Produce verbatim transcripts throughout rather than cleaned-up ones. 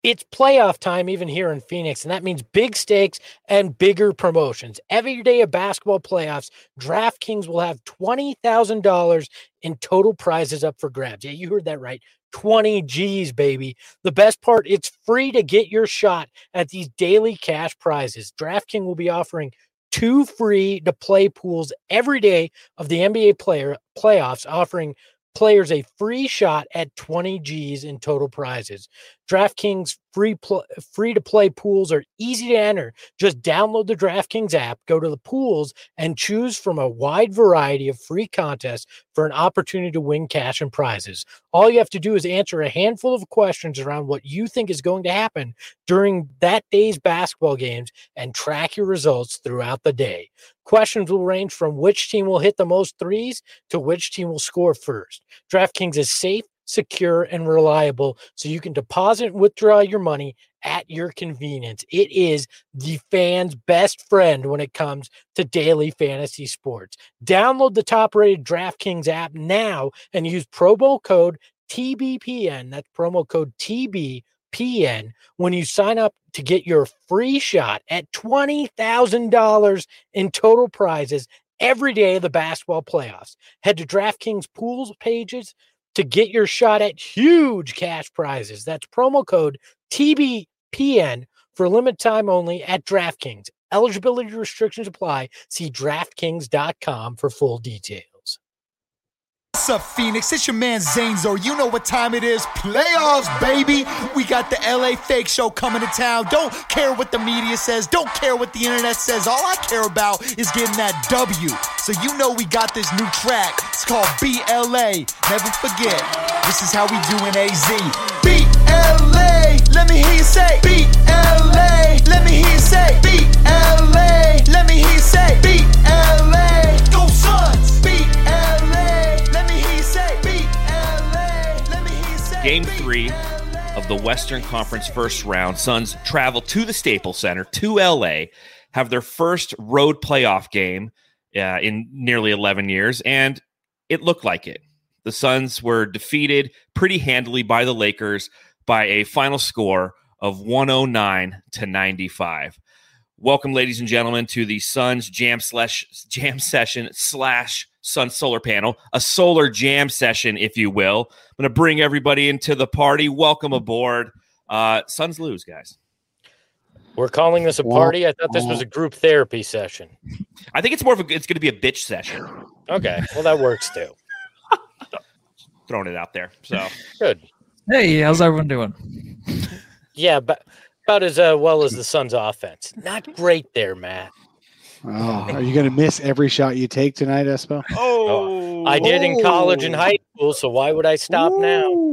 It's playoff time even here in Phoenix, and that means big stakes and bigger promotions. Every day of basketball playoffs, DraftKings will have twenty thousand dollars in total prizes up for grabs. Yeah, you heard that right. twenty G's, baby. The best part, it's free to get your shot at these daily cash prizes. DraftKings will be offering two free to play pools every day of the N B A player playoffs, offering players a free shot at twenty G's in total prizes. DraftKings free pl- free to play pools are easy to enter. Just download the DraftKings app, go to the pools, and choose from a wide variety of free contests for an opportunity to win cash and prizes. All you have to do is answer a handful of questions around what you think is going to happen during that day's basketball games and track your results throughout the day. Questions will range from which team will hit the most threes to which team will score first. DraftKings is safe, secure, and reliable, so you can deposit and withdraw your money at your convenience. It is the fan's best friend when it comes to daily fantasy sports. Download the top-rated DraftKings app now and use promo code T B P N. That's promo code T B P N when you sign up to get your free shot at twenty thousand dollars in total prizes every day of the basketball playoffs. Head to DraftKings pools pages to get your shot at huge cash prizes. That's promo code T B P N for limited time only at DraftKings. Eligibility restrictions apply. See DraftKings dot com for full details. What's up, Phoenix? It's your man Zanezo. You know what time it is. Playoffs, baby. We got the L A Fake Show coming to town. Don't care what the media says. Don't care what the internet says. All I care about is getting that W. So you know we got this new track. It's called B L A. Never forget. This is how we do in A Z. B L A. Let me hear you say. B L A. Let me hear you say. B L A. Let me hear you say. B L A. Go Suns. B L A. Game three of the Western Conference first round. Suns travel to the Staples Center, to L A, have their first road playoff game uh, in nearly eleven years, and it looked like it. The Suns were defeated pretty handily by the Lakers by a final score of one oh nine to ninety-five. Welcome, ladies and gentlemen, to the Suns Jam slash Jam Session slash Sun Solar Panel, a solar jam session, if you will. I'm going to bring everybody into the party. Welcome aboard. Uh, Suns lose, guys. We're calling this a party? I thought this was a group therapy session. I think it's more of a, it's going to be a bitch session. Okay, well, that works too. Throwing it out there. So good. Hey, how's everyone doing? Yeah, but about as uh, well as the Suns' offense. Not great there, Matt. Oh, are you going to miss every shot you take tonight, Espo? Oh, I did in college and high school, so why would I stop Ooh.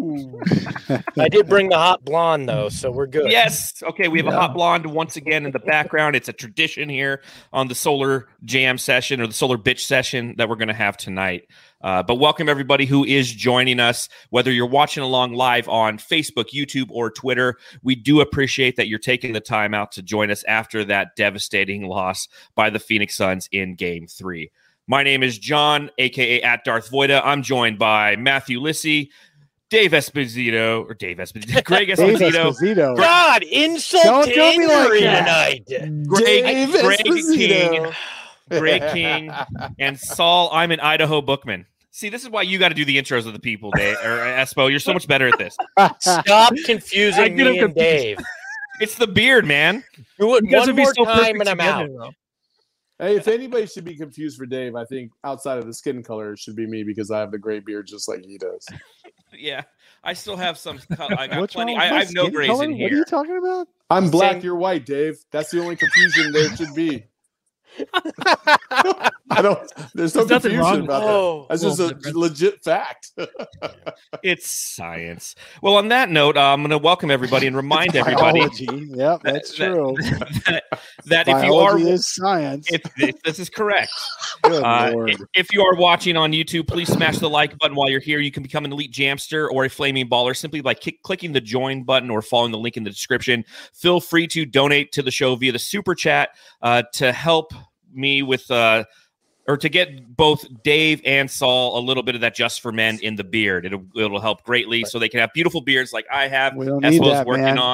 now? I did bring the hot blonde, though, so we're good. Yes. Okay, we have yeah. a hot blonde once again in the background. It's a tradition here on the Solar Jam session or the Solar Bitch session that we're going to have tonight. Uh, but welcome everybody who is joining us, whether you're watching along live on Facebook, YouTube, or Twitter. We do appreciate that you're taking the time out to join us after that devastating loss by the Phoenix Suns in Game three. My name is John, a k a at Darth Voida. I'm joined by Matthew Lissy, Dave Esposito, or Dave Esposito, Greg Esposito. Esposito. God, insult to injury tonight. Greg, Dave Greg Esposito. King, Greg King, and Saul, I'm an Idaho Bookman. See, this is why you got to do the intros of the people, Dave, or Espo. You're so much better at this. Stop confusing me and Dave. It's the beard, man. Do it one more so time and I'm out. Though. Hey, if anybody should be confused for Dave, I think outside of the skin color, it should be me because I have the gray beard just like he does. Yeah, I still have some. I got What's plenty. wrong with I, I have no grays color? in here. What are you talking about? I'm black, Same. you're white, Dave. That's the only confusion there should be. I don't. There's no There's nothing confusion wrong about with that. That's just a different. legit fact. It's science. Well, on that note, uh, I'm going to welcome everybody and remind everybody. Biology. Yep, that's that, true. That, that if you are, Biology is science. if, if this is correct. Good Uh, Lord. if, if you are watching on YouTube, please smash the like button while you're here. You can become an elite jamster or a flaming baller simply by kick, clicking the join button or following the link in the description. Feel free to donate to the show via the super chat uh, to help me with uh, or to get both Dave and Saul a little bit of that Just for Men in the beard. It'll it'll help greatly so they can have beautiful beards like I have. We don't need Espo's that, working man. on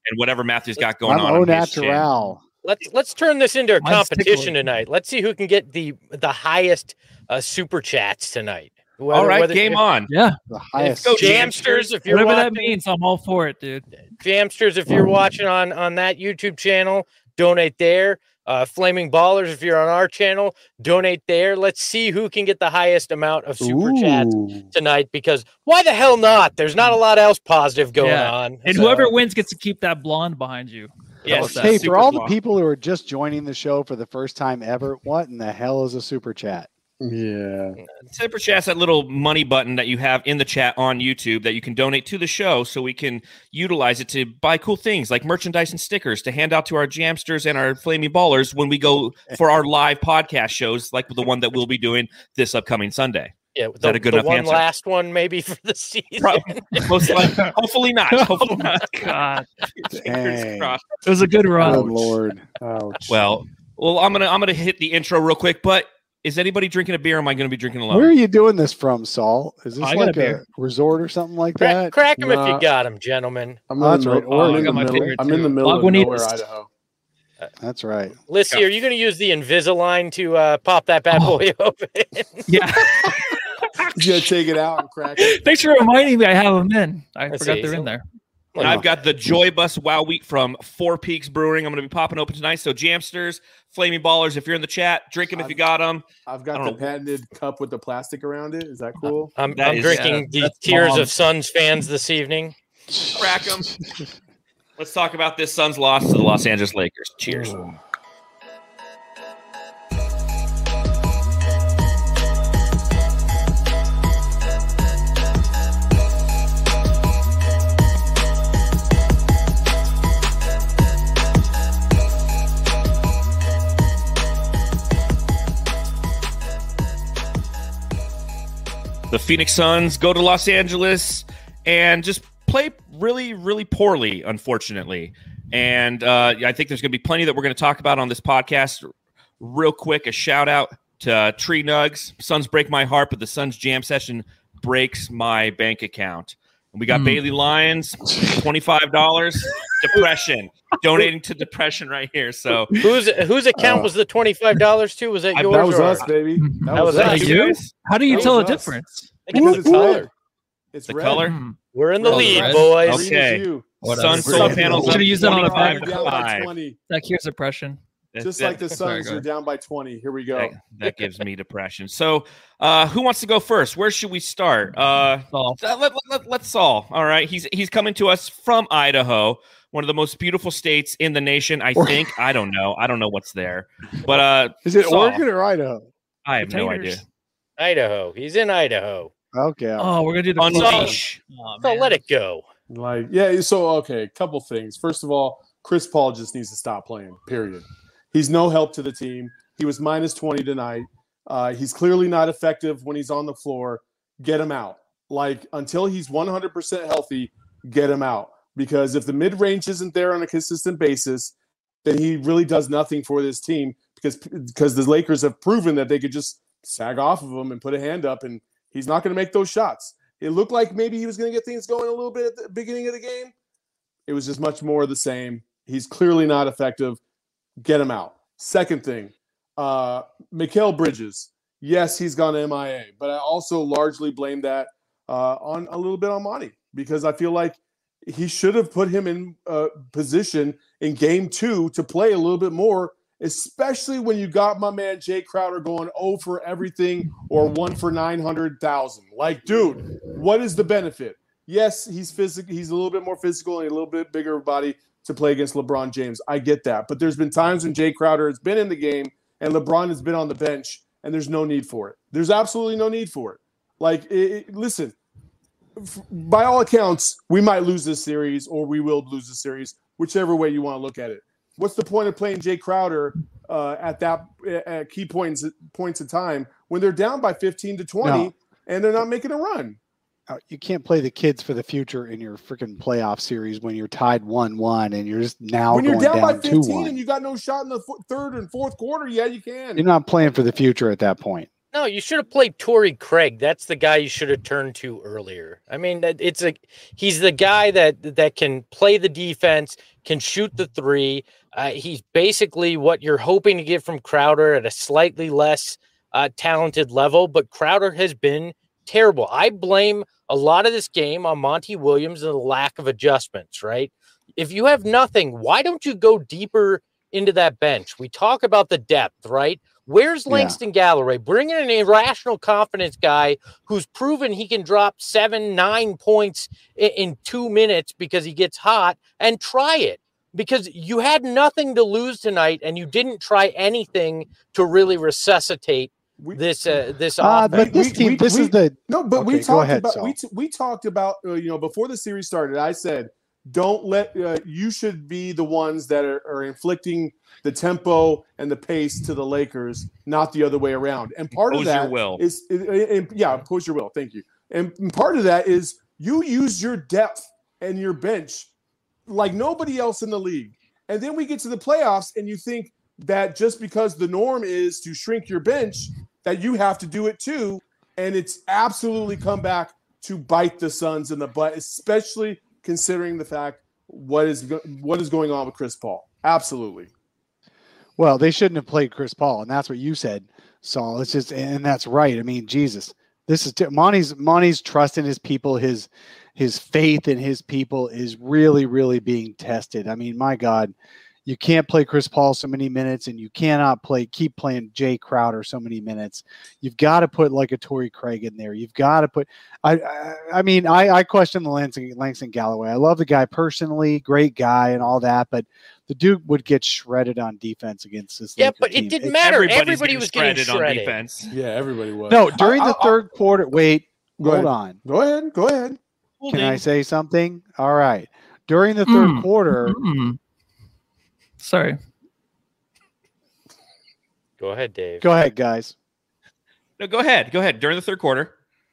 and whatever Matthew's got going I'm on. au on his channel. natural. Let's let's turn this into a Mine's competition tickling. tonight. Let's see who can get the the highest uh, super chats tonight. Whether, All right, whether- game if, on. Yeah, The highest. go, Jamsters, if you're whatever that watching, means, I'm all for it, dude. Jamsters, if you're watching on on that YouTube channel, donate there. Uh, Flaming Ballers, if you're on our channel, donate there. Let's see who can get the highest amount of super chats Ooh. tonight. Because why the hell not? There's not a lot else positive going Yeah. on. And so, whoever wins gets to keep that blonde behind you. yes. about that? Hey, Super for all the blonde. people who are just joining the show for the first time ever, what in the hell is a super chat? Yeah. Super Chat's that little money button that you have in the chat on YouTube that you can donate to the show so we can utilize it to buy cool things like merchandise and stickers to hand out to our Jamsters and our Flaming Ballers when we go for our live podcast shows like the one that we'll be doing this upcoming Sunday. Yeah, the, that a good the enough one answer? last one maybe for the season. Probably, most likely, hopefully not. Hopefully not. God, Fingers Dang. crossed. it was a good Oh, run. Lord. Ouch. Well, well, I'm gonna I'm gonna hit the intro real quick. But is anybody drinking a beer? Or am I gonna be drinking alone? Where are you doing this from, Saul? Is this I got like a a, beer. resort or something like Crack, that? crack them if Nah. you got them, gentlemen. I'm, Oh, in that's the, right. middle- Or- I'm I in got the my middle. favorite I'm in the too. middle of Lagunitas. nowhere, Idaho. That's right. Lissy, are you going to use the Invisalign to uh, pop that bad Oh. boy open? Yeah. You gotta take it out and crack it. Thanks for reminding me. I have them in. I Let's forgot see. they're in there. And I've got the Joy Bus Wow Wheat from Four Peaks Brewing. I'm going to be popping open tonight. So Jamsters, Flaming Ballers, if you're in the chat, drink them if you got them. I've I got don't the know. patented cup with the plastic around it. Is that cool? I'm, That I'm is- drinking yeah, the that's Tears bomb. of Suns fans this evening. Crack them. Let's talk about this Suns loss to the Los Angeles Lakers. Cheers. The Phoenix Suns go to Los Angeles and just play really, really poorly, unfortunately. And uh, I think there's going to be plenty that we're going to talk about on this podcast. Real quick, a shout out to uh, Tree Nugs. Suns break my heart, but the Suns jam session breaks my bank account. And we got Mm. Bailey Lyons, twenty-five dollars. Depression. Donating to depression right here. So Whose whose account Uh, was the twenty-five dollars to? Was that I- yours? That was or us, baby. That, That was us. us. you You? guys, How do you That tell the was us. difference? I think it's Because the it's color. red. It's the red. color. Hmm. We're in the Red. lead, Red. boys. Green is Okay. you. Whatever. Sun solar panels. Should've used that on a twenty-five bag. to Down by five. twenty. That cures depression. Just That- like the Sorry, Suns go are ahead. down by twenty. Here we go. that, that gives me depression. So, uh, who wants to go first? Where should we start? Uh, Oh, Uh, let, let, let, us Saul. All right. He's he's coming to us from Idaho, one of the most beautiful states in the nation, I Or- think. I don't know. I don't know what's there. But uh, Is it Saul. Oregon or Idaho? I have no idea. Potatoes. Idaho. He's in Idaho. Okay. oh, we're gonna do the Unleash. Oh, So man. let it go. Like, yeah, so okay, couple things. First of all, Chris Paul just needs to stop playing, period. He's no help to the team. He was minus twenty tonight. Uh, he's clearly not effective when he's on the floor. Get him out. Like, until he's one hundred percent healthy, get him out. Because if the mid range isn't there on a consistent basis, then he really does nothing for this team because, because the Lakers have proven that they could just sag off of him and put a hand up, and he's not going to make those shots. It looked like maybe he was going to get things going a little bit at the beginning of the game. It was just much more of the same. He's clearly not effective. Get him out. Second thing, uh, Mikal Bridges. Yes, he's gone M I A, but I also largely blame that uh, on a little bit on Monty because I feel like he should have put him in uh, position in game two to play a little bit more, especially when you got my man Jay Crowder going oh for everything or one for nine hundred thousand. Like, dude, what is the benefit? Yes, he's physical. He's a little bit more physical and a little bit bigger body to play against LeBron James. I get that. But there's been times when Jay Crowder has been in the game and LeBron has been on the bench, and there's no need for it. There's absolutely no need for it. Like, it, it, listen, f- by all accounts, we might lose this series or we will lose this series, whichever way you want to look at it. What's the point of playing Jay Crowder uh, at that at key points points in time when they're down by fifteen to twenty No. and they're not making a run? Uh, You can't play the kids for the future in your freaking playoff series when you're tied one one and you're just now When you're going down, down, by two fifteen one. and you got no shot in the f- third and fourth quarter, yeah, you can. You're not playing for the future at that point. No, you should have played Torrey Craig. That's the guy you should have turned to earlier. I mean, it's a he's the guy that that can play the defense, can shoot the three. Uh, he's basically what you're hoping to get from Crowder at a slightly less uh, talented level. But Crowder has been terrible. I blame a lot of this game on Monty Williams and the lack of adjustments. Right? If you have nothing, why don't you go deeper into that bench? We talk about the depth, right? Where's Langston yeah. Galloway? Bring in an irrational confidence guy who's proven he can drop seven, nine points in, in two minutes because he gets hot, and try it. Because you had nothing to lose tonight, and you didn't try anything to really resuscitate we, this uh, this uh, offense. But this we, team, we, this we, is the no. But okay, we talked ahead, about Saul. we t- we talked about uh, you know before the series started. I said, don't let uh, you should be the ones that are, are inflicting the tempo and the pace to the Lakers, not the other way around. And part impose of that your will. is, is yeah, impose your will. Thank you. And part of that is you use your depth and your bench like nobody else in the league. And then we get to the playoffs, and you think that just because the norm is to shrink your bench, that you have to do it too. And it's absolutely come back to bite the Suns in the butt, especially considering the fact what is go- what is going on with Chris Paul. Absolutely. Well, they shouldn't have played Chris Paul, and that's what you said, Saul. It's just, and that's right. I mean, Jesus, this is t- Monty's Monty's trust in his people, his his faith in his people is really, really being tested. I mean, my God, you can't play Chris Paul so many minutes, and you cannot play keep playing Jay Crowder so many minutes. You've got to put like a Torrey Craig in there. You've got to put. I I, I mean, I, I question the Langston, Langston Galloway. I love the guy personally, great guy, and all that, but the Duke would get shredded on defense against this. Yeah, Laker but team. it didn't It, matter. Everybody's Everybody was getting shredded shredded on defense. Yeah, everybody was. No, during I, the I, third I, quarter. Wait, go hold ahead. on. Go ahead. Go ahead. Can I say something? All right. During the third Mm. quarter. Mm. Sorry. Go ahead, Dave. Go ahead, guys. No, go ahead. Go ahead. During the third quarter.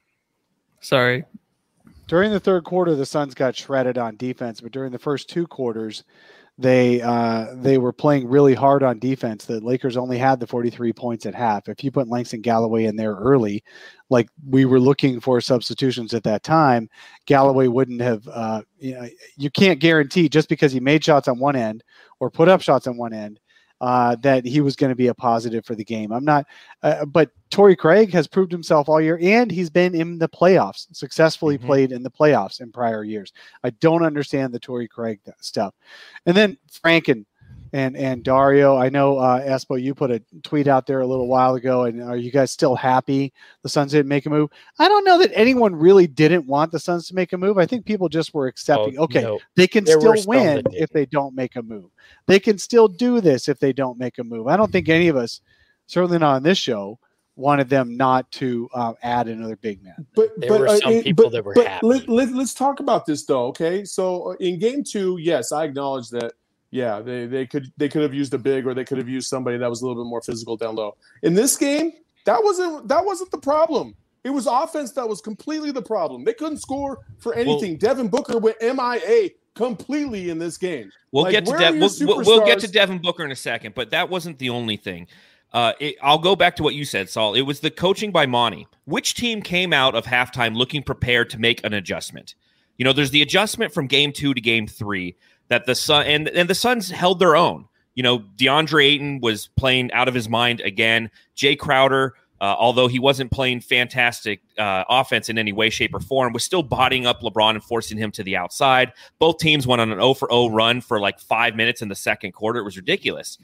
Sorry. During the third quarter, the Suns got shredded on defense, but during the first two quarters, they uh, they were playing really hard on defense. The Lakers only had the forty-three points at half. If you put Langston Galloway in there early, like we were looking for substitutions at that time, Galloway wouldn't have. Uh, you know, you can't guarantee just because he made shots on one end or put up shots on one end uh, that he was going to be a positive for the game. I'm not, uh, but Torrey Craig has proved himself all year, and he's been in the playoffs, successfully mm-hmm. played in the playoffs in prior years. I don't understand the Torrey Craig stuff. And then Franken and, and Dario, I know, uh, Espo, you put a tweet out there a little while ago, and are you guys still happy the Suns didn't make a move? I don't know that anyone really didn't want the Suns to make a move. I think people just were accepting, oh, okay, no. they can there still win if they don't make a move. They can still do this if they don't make a move. I don't think any of us, certainly not on this show, wanted them not to uh, add another big man. But there but, were uh, some it, people but, that were but happy. Let, let, let's talk about this though. Okay, so in game two, yes, I acknowledge that. Yeah, they they could they could have used a big, or they could have used somebody that was a little bit more physical down low. In this game, that wasn't that wasn't the problem. It was offense that was completely the problem. They couldn't score for anything. Well, Devin Booker went M I A completely in this game. We'll like, get to De- we'll, we'll get to Devin Booker in a second, but that wasn't the only thing. Uh, it, I'll go back to what you said, Saul. It was the coaching by Monty. Which team came out of halftime looking prepared to make an adjustment? You know, there's the adjustment from game two to game three that the Sun and, and the Suns held their own. You know, DeAndre Ayton was playing out of his mind again. Jay Crowder, uh, although he wasn't playing fantastic uh, offense in any way, shape, or form, was still bodying up LeBron and forcing him to the outside. Both teams went on an oh for oh run for like five minutes in the second quarter. It was ridiculous.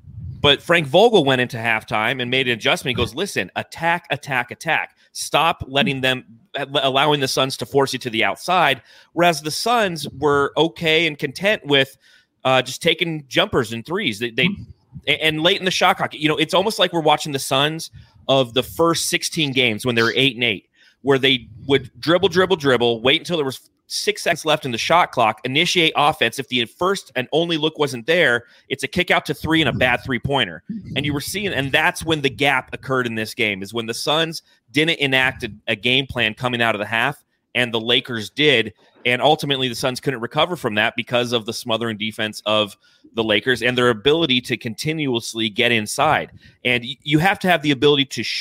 But Frank Vogel went into halftime and made an adjustment. He goes, listen, attack, attack, attack. Stop letting them, allowing the Suns to force you to the outside. Whereas the Suns were okay and content with uh, just taking jumpers and threes. They, they and late in the shot clock, you know, it's almost like we're watching the Suns of the first sixteen games when they were eight and eight, where they would dribble, dribble, dribble, wait until there was six seconds left in the shot clock, initiate offense. If the first and only look wasn't there, it's a kick out to three and a bad three-pointer. And you were seeing, and that's when the gap occurred in this game, is when the Suns didn't enact a, a game plan coming out of the half, and the Lakers did. And ultimately, the Suns couldn't recover from that because of the smothering defense of the Lakers and their ability to continuously get inside. And you have to have the ability to shoot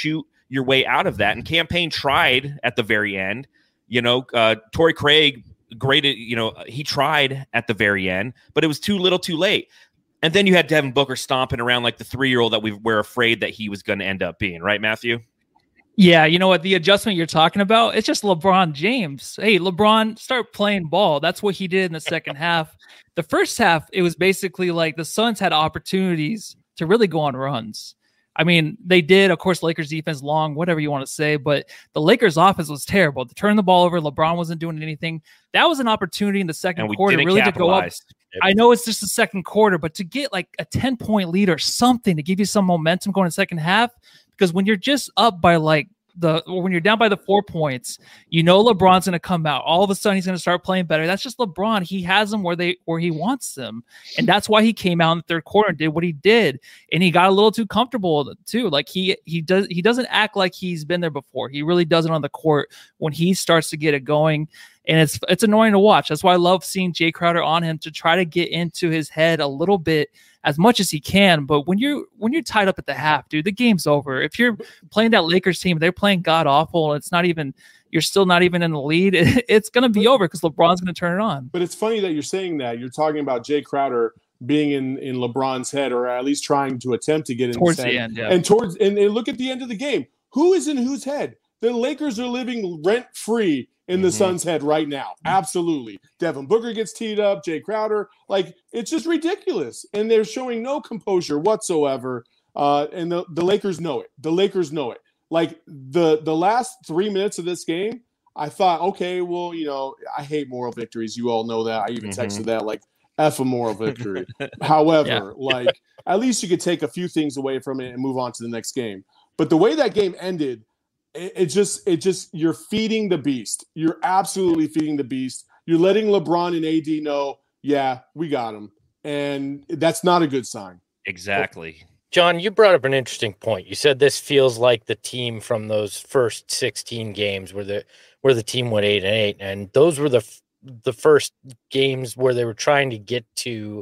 your way out of that. And Campaign tried at the very end. You know, uh, Torrey Craig, great, you know, he tried at the very end, but it was too little too late. And then you had Devin Booker stomping around like the three-year-old that we were afraid that he was going to end up being. Right, Matthew? Yeah, you know what? The adjustment you're talking about, it's just LeBron James. Hey, LeBron, start playing ball. That's what he did in the second half. The first half, it was basically like the Suns had opportunities to really go on runs. I mean, they did. Of course, Lakers defense long, whatever you want to say, but the Lakers offense was terrible. To turn the ball over, LeBron wasn't doing anything. That was an opportunity in the second quarter really to go up. Yep. I know it's just the second quarter, but to get like a ten-point lead or something to give you some momentum going in the second half, because when you're just up by like the, when you're down by the four points, you know LeBron's going to come out. All of a sudden, he's going to start playing better. That's just LeBron. He has them where they where he wants them, and that's why he came out in the third quarter and did what he did. And he got a little too comfortable too. Like he he does he doesn't act like he's been there before. He really does it on the court when he starts to get it going. And it's it's annoying to watch. That's why I love seeing Jay Crowder on him to try to get into his head a little bit as much as he can. But when you're when you're tied up at the half, dude, the game's over. If you're playing that Lakers team, they're playing god awful. It's not even you're still not even in the lead. It, it's going to be over because LeBron's going to turn it on. But it's funny that you're saying that. You're talking about Jay Crowder being in, in LeBron's head, or at least trying to attempt to get in towards his the head. end, yeah. And towards and, and look at the end of the game. Who is in whose head? The Lakers are living rent free in the mm-hmm. Suns' head right now. Absolutely. Devin Booker gets teed up, Jay Crowder. Like, it's just ridiculous. And they're showing no composure whatsoever. Uh, and the, the Lakers know it. The Lakers know it. Like, the, the last three minutes of this game, I thought, okay, well, you know, I hate moral victories. You all know that. I even mm-hmm. texted that, like, F a moral victory. However, yeah. like, at least you could take a few things away from it and move on to the next game. But the way that game ended, It just, it just, you're feeding the beast. You're absolutely feeding the beast. You're letting LeBron and A D know, yeah, we got him. And that's not a good sign. Exactly. John, you brought up an interesting point. You said this feels like the team from those first sixteen games where the, where the team went eight and eight. And those were the, the first games where they were trying to get to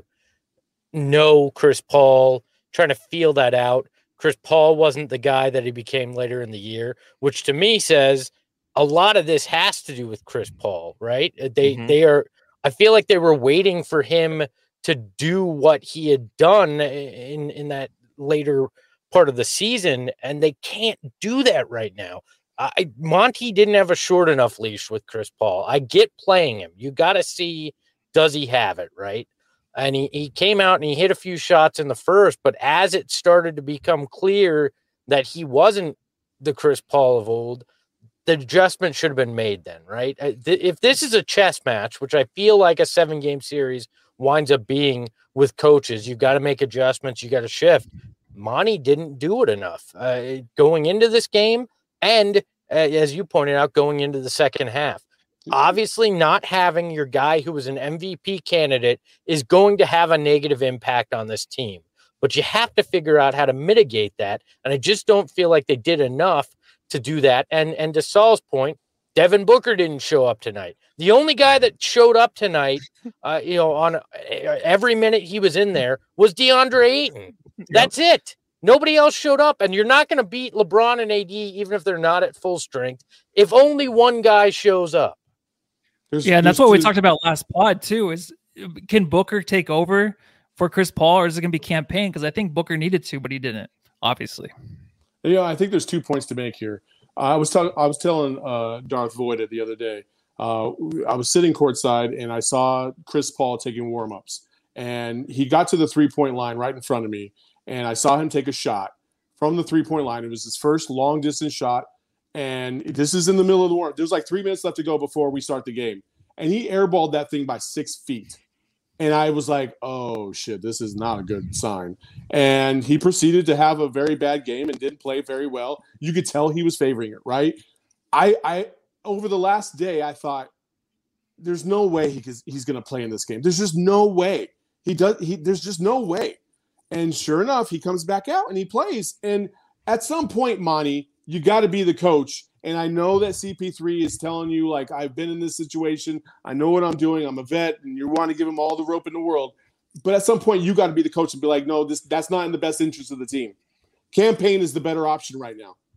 know Chris Paul, trying to feel that out. Chris Paul wasn't the guy that he became later in the year, which to me says a lot of this has to do with Chris Paul, right? They mm-hmm. they are. I feel like they were waiting for him to do what he had done in in that later part of the season, and they can't do that right now. I, Monty didn't have a short enough leash with Chris Paul. I get playing him. You got to see, does he have it, right? And he, he came out and he hit a few shots in the first, but as it started to become clear that he wasn't the Chris Paul of old, the adjustment should have been made then, right? If this is a chess match, which I feel like a seven-game series winds up being with coaches, you've got to make adjustments, you got to shift. Monty didn't do it enough uh, going into this game and, uh, as you pointed out, going into the second half. Obviously, not having your guy who was an M V P candidate is going to have a negative impact on this team. But you have to figure out how to mitigate that. And I just don't feel like they did enough to do that. And and to Saul's point, Devin Booker didn't show up tonight. The only guy that showed up tonight, uh, you know, on every minute he was in there was DeAndre Ayton. That's yep. it. Nobody else showed up, and you're not going to beat LeBron and A D, even if they're not at full strength, if only one guy shows up. There's, yeah, and that's what two. we talked about last pod too. Is can Booker take over for Chris Paul, or is it going to be Campaign? Because I think Booker needed to, but he didn't. Obviously, yeah. You know, I think there's two points to make here. Uh, I was talking. I was telling uh, Darth Voida the other day. Uh, I was sitting courtside and I saw Chris Paul taking warm-ups, and he got to the three-point line right in front of me, and I saw him take a shot from the three-point line. It was his first long-distance shot. And this is in the middle of the war. There's like three minutes left to go before we start the game. And he airballed that thing by six feet. And I was like, oh, shit, this is not a good sign. And he proceeded to have a very bad game and didn't play very well. You could tell he was favoring it, right? I, I over the last day, I thought, there's no way he, he's going to play in this game. There's just no way. He does. He, there's just no way. And sure enough, he comes back out and he plays. And at some point, Monty, you got to be the coach. And I know that C P three is telling you, like, I've been in this situation. I know what I'm doing. I'm a vet, and you want to give him all the rope in the world. But at some point, you got to be the coach and be like, no, this that's not in the best interest of the team. Campaign is the better option right now.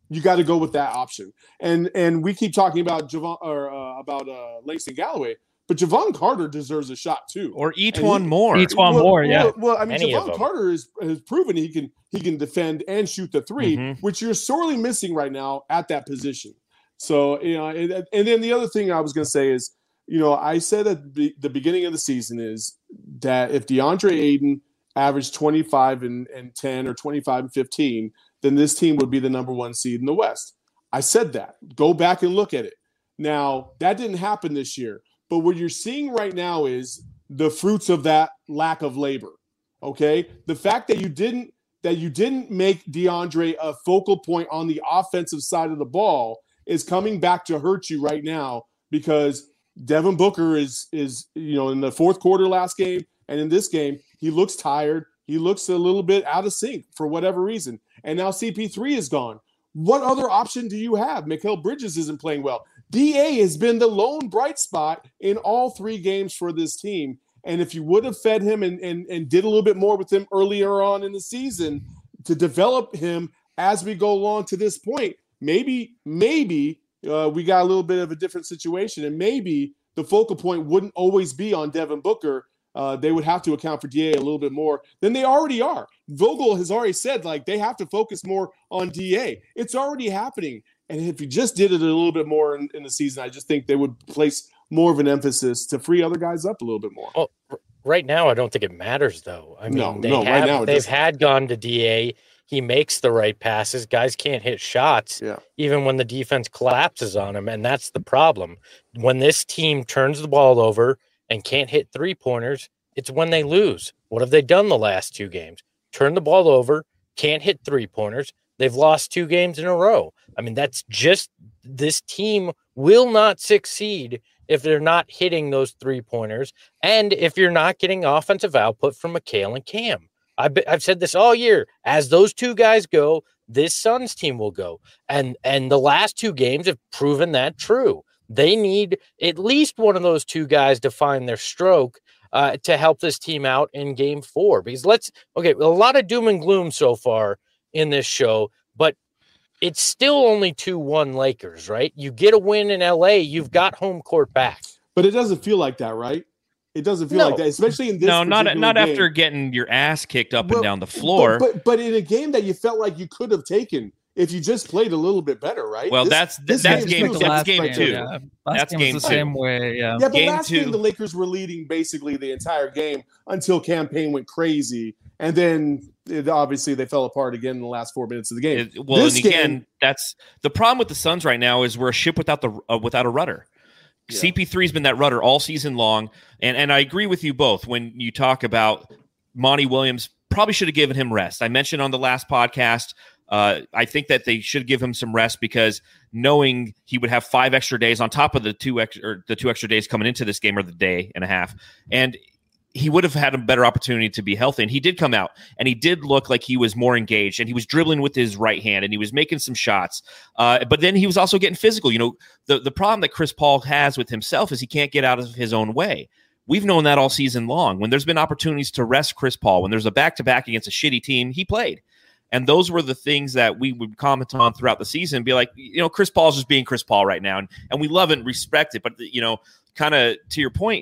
you got to go with that option. And and we keep talking about Javon or uh, about uh, Langston Galloway, but Javon Carter deserves a shot too, or E'Twaun Moore. E'Twaun well, Moore, yeah. Well, well I mean, Any of Javon them. Carter is, has proven he can he can defend and shoot the three, Mhm. which you're sorely missing right now at that position. So you know, and, and then the other thing I was going to say is, you know, I said at the, the beginning of the season is that if DeAndre Ayton averaged twenty-five and, and ten or twenty-five and fifteen, then this team would be the number one seed in the West. I said that. Go back and look at it. Now, that didn't happen this year, but what you're seeing right now is the fruits of that lack of labor. Okay? The fact that you didn't that you didn't make DeAndre a focal point on the offensive side of the ball is coming back to hurt you right now, because Devin Booker is is you know in the fourth quarter last game and in this game he looks tired. He looks a little bit out of sync for whatever reason. And now C P three is gone. What other option do you have? Mikal Bridges isn't playing well. D A has been the lone bright spot in all three games for this team. And if you would have fed him and, and, and did a little bit more with him earlier on in the season to develop him as we go along to this point, maybe, maybe uh, we got a little bit of a different situation. And maybe the focal point wouldn't always be on Devin Booker. Uh, they would have to account for D A a little bit more than they already are. Vogel has already said, like, they have to focus more on D A. It's already happening. And if you just did it a little bit more in, in the season, I just think they would place more of an emphasis to free other guys up a little bit more. Well, r- right now, I don't think it matters, though. I mean, No, they no, right have, now it they've doesn't. had gone to D A. He makes the right passes. Guys can't hit shots, Yeah. even when the defense collapses on him, and that's the problem. When this team turns the ball over and can't hit three-pointers, it's when they lose. What have they done the last two games? Turn the ball over, can't hit three-pointers. They've lost two games in a row. I mean, that's just – this team will not succeed if they're not hitting those three-pointers and if you're not getting offensive output from Mikal and Cam. I've, been, I've said this all year. As those two guys go, this Suns team will go. And, and the last two games have proven that true. They need at least one of those two guys to find their stroke uh, to help this team out in game four. Because let's – okay, a lot of doom and gloom so far in this show, but it's still only two one Lakers, right? You get a win in L A, you've got home court back. But it doesn't feel like that, right? It doesn't feel No. like that, especially in this No, not particular not game. after getting your ass kicked up Well, and down the floor. But, but but in a game that you felt like you could have taken if you just played a little bit better, right? Well, This- that's this that's feels game like that's last game game, two. Yeah. Last That's game game was the two. same way. Yeah. Yeah, but Game last two- game the Lakers were leading basically the entire game until campaign went crazy, and then it, obviously they fell apart again in the last four minutes of the game. It- well, This and again, game- that's the problem with the Suns right now is we're a ship without the uh, without a rudder. Yeah. C P three's been that rudder all season long, and and I agree with you both when you talk about Monty Williams. Probably should have given him rest. I mentioned on the last podcast. Uh, I think that they should give him some rest because knowing he would have five extra days on top of the two extra or the two extra days coming into this game or the day and a half, and he would have had a better opportunity to be healthy. And he did come out and he did look like he was more engaged and he was dribbling with his right hand and he was making some shots. Uh, but then he was also getting physical. You know, the, the problem that Chris Paul has with himself is he can't get out of his own way. We've known that all season long. When there's been opportunities to rest Chris Paul, when there's a back-to-back against a shitty team, he played. And those were the things that we would comment on throughout the season, be like, you know, Chris Paul's just being Chris Paul right now. And, and we love it and respect it. But, you know, kind of to your point,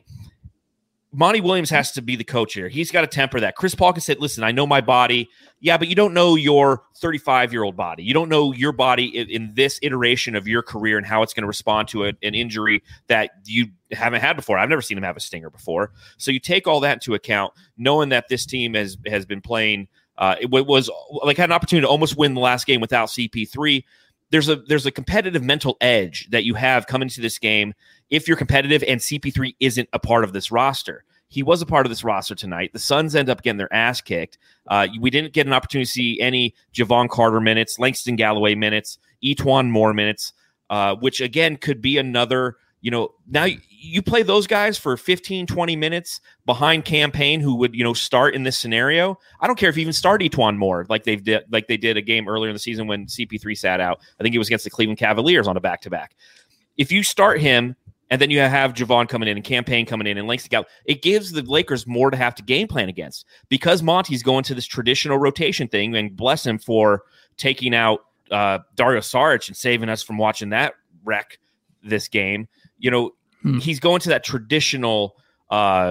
Monty Williams has to be the coach here. He's got to temper that. Chris Paul can say, listen, I know my body. Yeah, but you don't know your thirty-five-year-old body. You don't know your body in, in this iteration of your career and how it's going to respond to a, an injury that you haven't had before. I've never seen him have a stinger before. So you take all that into account, knowing that this team has, has been playing uh, – it was like had an opportunity to almost win the last game without C P three. There's a there's a competitive mental edge that you have coming to this game if you're competitive and C P three isn't a part of this roster. He was a part of this roster tonight. The Suns end up getting their ass kicked. Uh, we didn't get an opportunity to see any Javon Carter minutes, Langston Galloway minutes, E'Twaun Moore minutes, uh, which again could be another, you know, now you play those guys for fifteen, twenty minutes behind campaign who would, you know, start in this scenario. I don't care if you even start E'Twaun Moore like they've did, like they did a game earlier in the season when C P three sat out. I think it was against the Cleveland Cavaliers on a back-to-back. If you start him and then you have Javon coming in and campaign coming in and Langston Galloway, it gives the Lakers more to have to game plan against because Monty's going to this traditional rotation thing, and bless him for taking out uh, Dario Saric and saving us from watching that wreck this game. You know, hmm. he's going to that traditional uh,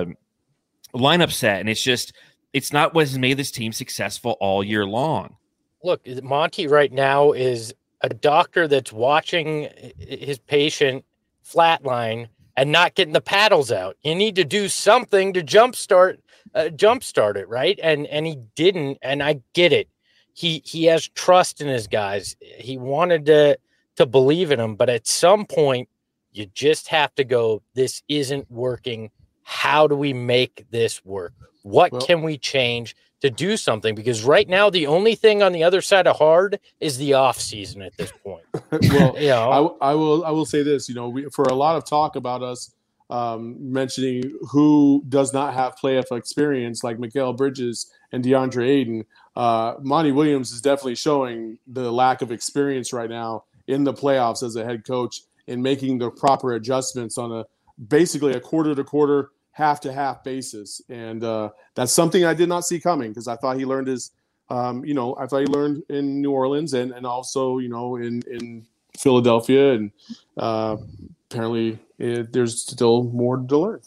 lineup set, and it's just it's not what has made this team successful all year long. Look, Monty right now is a doctor that's watching his patient flatline and not getting the paddles out. You need to do something to jumpstart, uh, jumpstart it, right? And and he didn't, and I get it. He he has trust in his guys. He wanted to to believe in them, but at some point, you just have to go, this isn't working. How do we make this work? What well, can we change to do something? Because right now, the only thing on the other side of hard is the off season at this point. well, you know? I, I will I will say this. You know, we, for a lot of talk about us um, mentioning who does not have playoff experience, like Mikal Bridges and DeAndre Ayton, uh, Monty Williams is definitely showing the lack of experience right now in the playoffs as a head coach in making the proper adjustments on a basically a quarter to quarter, half to half basis. And uh, that's something I did not see coming, because I thought he learned his, um, you know, I thought he learned in New Orleans and, and also, you know, in, in Philadelphia. And uh, apparently it, there's still more to learn.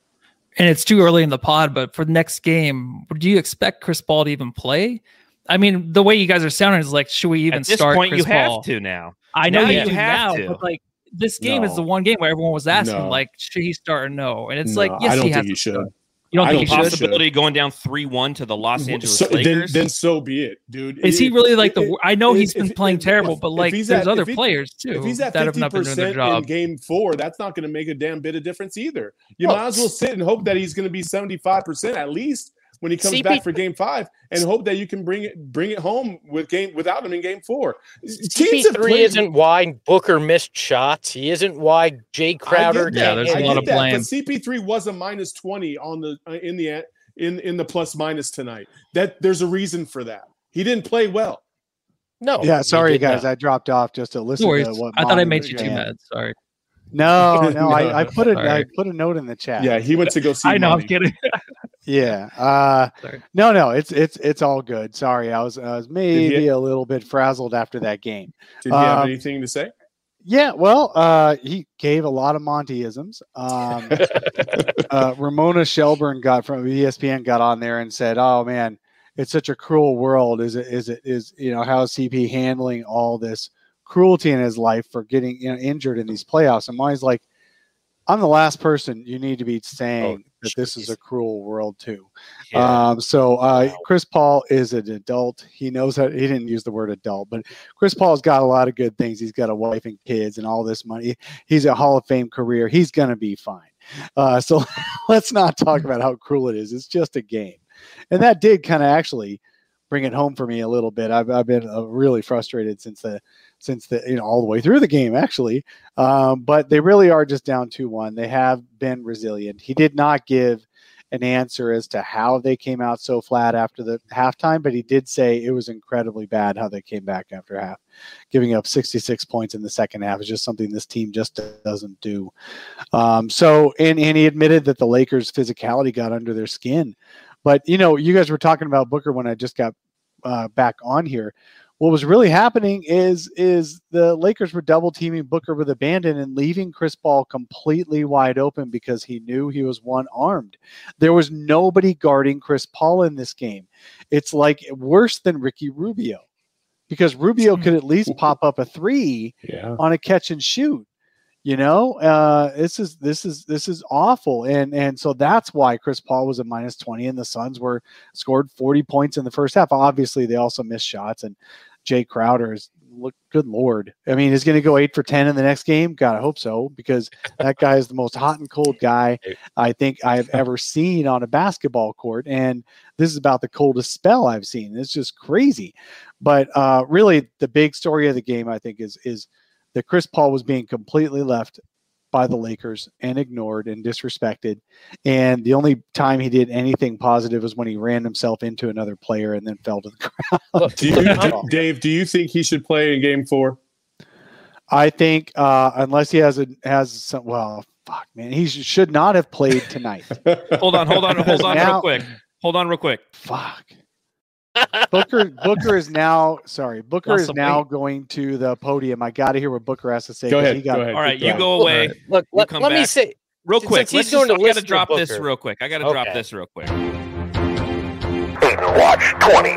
And it's too early in the pod, but for the next game, do you expect Chris Paul to even play? I mean, the way you guys are sounding is like, should we even At this start point, Chris you Paul? have to now. I know now you, you do have now, to. but like this game No. is the one game where everyone was asking, No. like, should he start or no? And it's No, like, yes, I don't he has think you to should. start. You don't I think don't he think should? so. Possibility going down three one to the Los Angeles So, then, Lakers. then so be it, dude. Is he If- really like the? if- I know if- he's been if- playing if- terrible, if- but if like he's there's at- other if he- players too If he's at that have fifty not been doing their percent job. in game four, that's not going to make a damn bit of difference either. You Well, might as well sit and hope that he's going to be seventy-five percent at least when he comes C P back for game five, and hope that you can bring it bring it home with game without him in game four. C P three isn't why Booker missed shots. He isn't why Jay Crowder. Yeah, there's I a lot get of that, blame. but C P three was a minus twenty on the uh, in the in in the plus minus tonight. That there's a reason for that. He didn't play well. No. Yeah, he sorry did guys, not. I dropped off just to listen No worries. to what I thought I Monty made was you too saying. mad. Sorry. No, no, No. I, I put a Sorry. I put a note in the chat. Yeah, he went to go see. I know. Monty. I'm kidding. Yeah. Uh, Sorry. no, no, it's it's it's all good. Sorry, I was I was maybe he- a little bit frazzled after that game. Did he have Um, anything to say? Yeah, well, uh, he gave a lot of Montyisms. Um, uh, Ramona Shelburne got from E S P N got on there and said, "Oh man, it's such a cruel world. Is it? Is it? Is you know how is C P handling all this cruelty in his life for getting you know, injured in these playoffs?" And Monty's like, "I'm the last person you need to be saying Oh, that this is geez. a cruel world too." Yeah. Um, so uh, Wow. Chris Paul is an adult. He knows how. He didn't use the word adult, but Chris Paul's got a lot of good things. He's got a wife and kids and all this money. He's a Hall of Fame career. He's gonna be fine. Uh, so let's not talk about how cruel it is. It's just a game, and that did kind of actually bring it home for me a little bit. I've I've been uh, really frustrated since the since the you know all the way through the game actually. Um, but they really are just down two one. They have been resilient. He did not give an answer as to how they came out so flat after the halftime, but he did say it was incredibly bad how they came back after half. Giving up sixty-six points in the second half is just something this team just doesn't do. Um, so, and, and he admitted that the Lakers' physicality got under their skin. But, you know, you guys were talking about Booker when I just got uh, back on here. What was really happening is is the Lakers were double teaming Booker with abandon and leaving Chris Paul completely wide open because he knew he was one armed. There was nobody guarding Chris Paul in this game. It's like worse than Ricky Rubio because Rubio could at least pop up a three Yeah. on a catch and shoot. You know, uh, this is this is this is awful, and and so that's why Chris Paul was a minus twenty, and the Suns were scored forty points in the first half. Obviously, they also missed shots, and Jay Crowder is look good lord. I mean, he's going to go eight for ten in the next game. God, I hope so, because that guy is the most hot and cold guy I think I've ever seen on a basketball court, and this is about the coldest spell I've seen. It's just crazy, but uh, really, the big story of the game, I think, is is. that Chris Paul was being completely left by the Lakers and ignored and disrespected. And the only time he did anything positive was when he ran himself into another player and then fell to the ground. Look, Do you, do, Dave, do you think he should play in game four? I think uh, unless he has a has some, well, fuck, man, he sh- should not have played tonight. Hold on, hold on, hold on Now- real quick. Hold on real quick. Fuck. Booker Booker is now sorry. Booker Lost is some now weight. going to the podium. I got to hear what Booker has to say. Go 'cause ahead. He got, Go ahead. All right, you Right. go away. Look, You let, come let me back. say, Real Since quick, he's let's going just, to I listen gotta to drop this Booker. real quick. I gotta drop Okay. this real quick. Aiden Watch twenty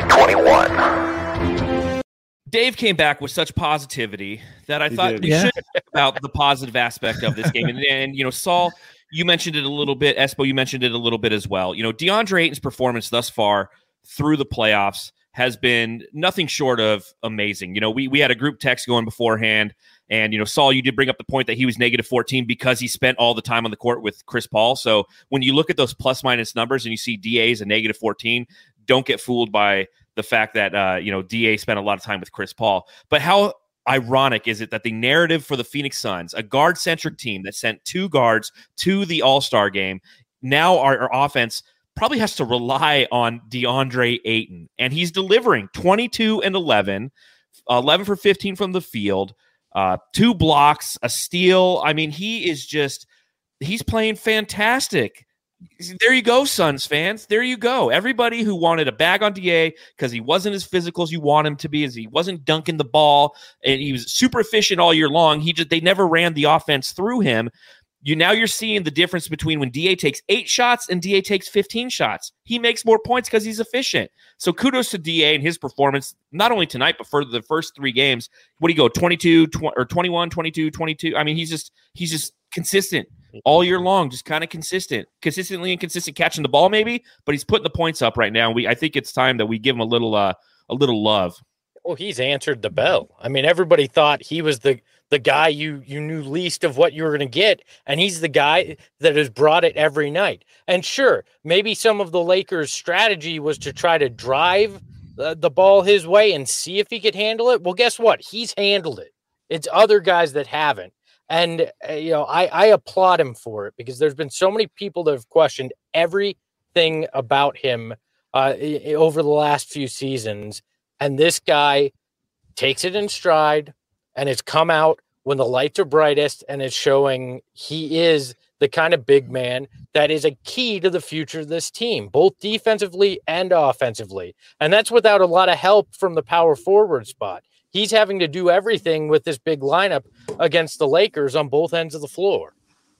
twenty-one. Dave came back with such positivity that I He thought did. we Yeah. should talk about the positive aspect of this game. And, and you know, Saul, you mentioned it a little bit. Espo, you mentioned it a little bit as well. You know, DeAndre Ayton's performance thus far through the playoffs has been nothing short of amazing. You know, we we had a group text going beforehand, and, you know, Saul, you did bring up the point that he was negative fourteen because he spent all the time on the court with Chris Paul. So when you look at those plus minus numbers and you see D A is a negative fourteen, don't get fooled by the fact that, uh, you know, D A spent a lot of time with Chris Paul. But how ironic is it that the narrative for the Phoenix Suns, a guard-centric team that sent two guards to the All-Star game, now our, our offense probably has to rely on DeAndre Ayton. And he's delivering twenty-two and eleven, eleven for fifteen from the field, uh, two blocks, a steal. I mean, he is just, he's playing fantastic. There you go, Suns fans. There you go. Everybody who wanted a bag on D A because he wasn't as physical as you want him to be, as he wasn't dunking the ball, and he was super efficient all year long. He just they never ran the offense through him. You now you're seeing the difference between when D A takes eight shots and D A takes fifteen shots. He makes more points because he's efficient. So kudos to D A and his performance, not only tonight, but for the first three games. What do you go, twenty-two, twenty, or twenty-one, twenty-two, twenty-two? I mean, he's just he's just consistent all year long, just kind of consistent, consistently inconsistent catching the ball maybe, but he's putting the points up right now. We I think it's time that we give him a little uh, a little love. Well, he's answered the bell. I mean, everybody thought he was the the guy you you knew least of what you were going to get, and he's the guy that has brought it every night. And sure, maybe some of the Lakers' strategy was to try to drive the, the ball his way and see if he could handle it. Well, guess what? He's handled it. It's other guys that haven't. And, uh, you know, I, I applaud him for it because there's been so many people that have questioned everything about him uh, i- over the last few seasons. And this guy takes it in stride and has come out when the lights are brightest and is showing he is the kind of big man that is a key to the future of this team, both defensively and offensively. And that's without a lot of help from the power forward spot. He's having to do everything with this big lineup against the Lakers on both ends of the floor.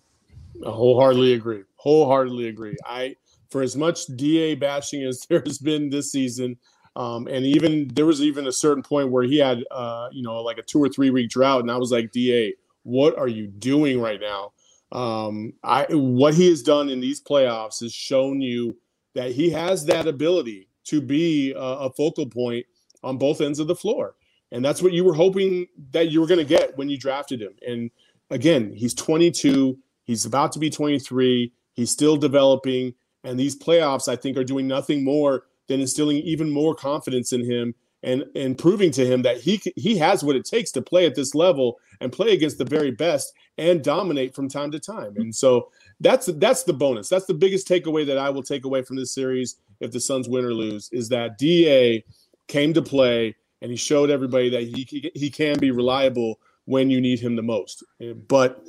I wholeheartedly agree. Wholeheartedly agree. I, for as much D A bashing as there's been this season, um, and even there was even a certain point where he had, uh, you know, like a two or three week drought, and I was like, D A, what are you doing right now? Um, I what he has done in these playoffs has shown you that he has that ability to be a, a focal point on both ends of the floor. And that's what you were hoping that you were going to get when you drafted him. And again, he's twenty-two. He's about to be twenty-three. He's still developing. And these playoffs, I think, are doing nothing more than instilling even more confidence in him and, and proving to him that he he has what it takes to play at this level and play against the very best and dominate from time to time. And so that's that's the bonus. That's the biggest takeaway that I will take away from this series if the Suns win or lose, is that D A came to play. And he showed everybody that he he can be reliable when you need him the most. But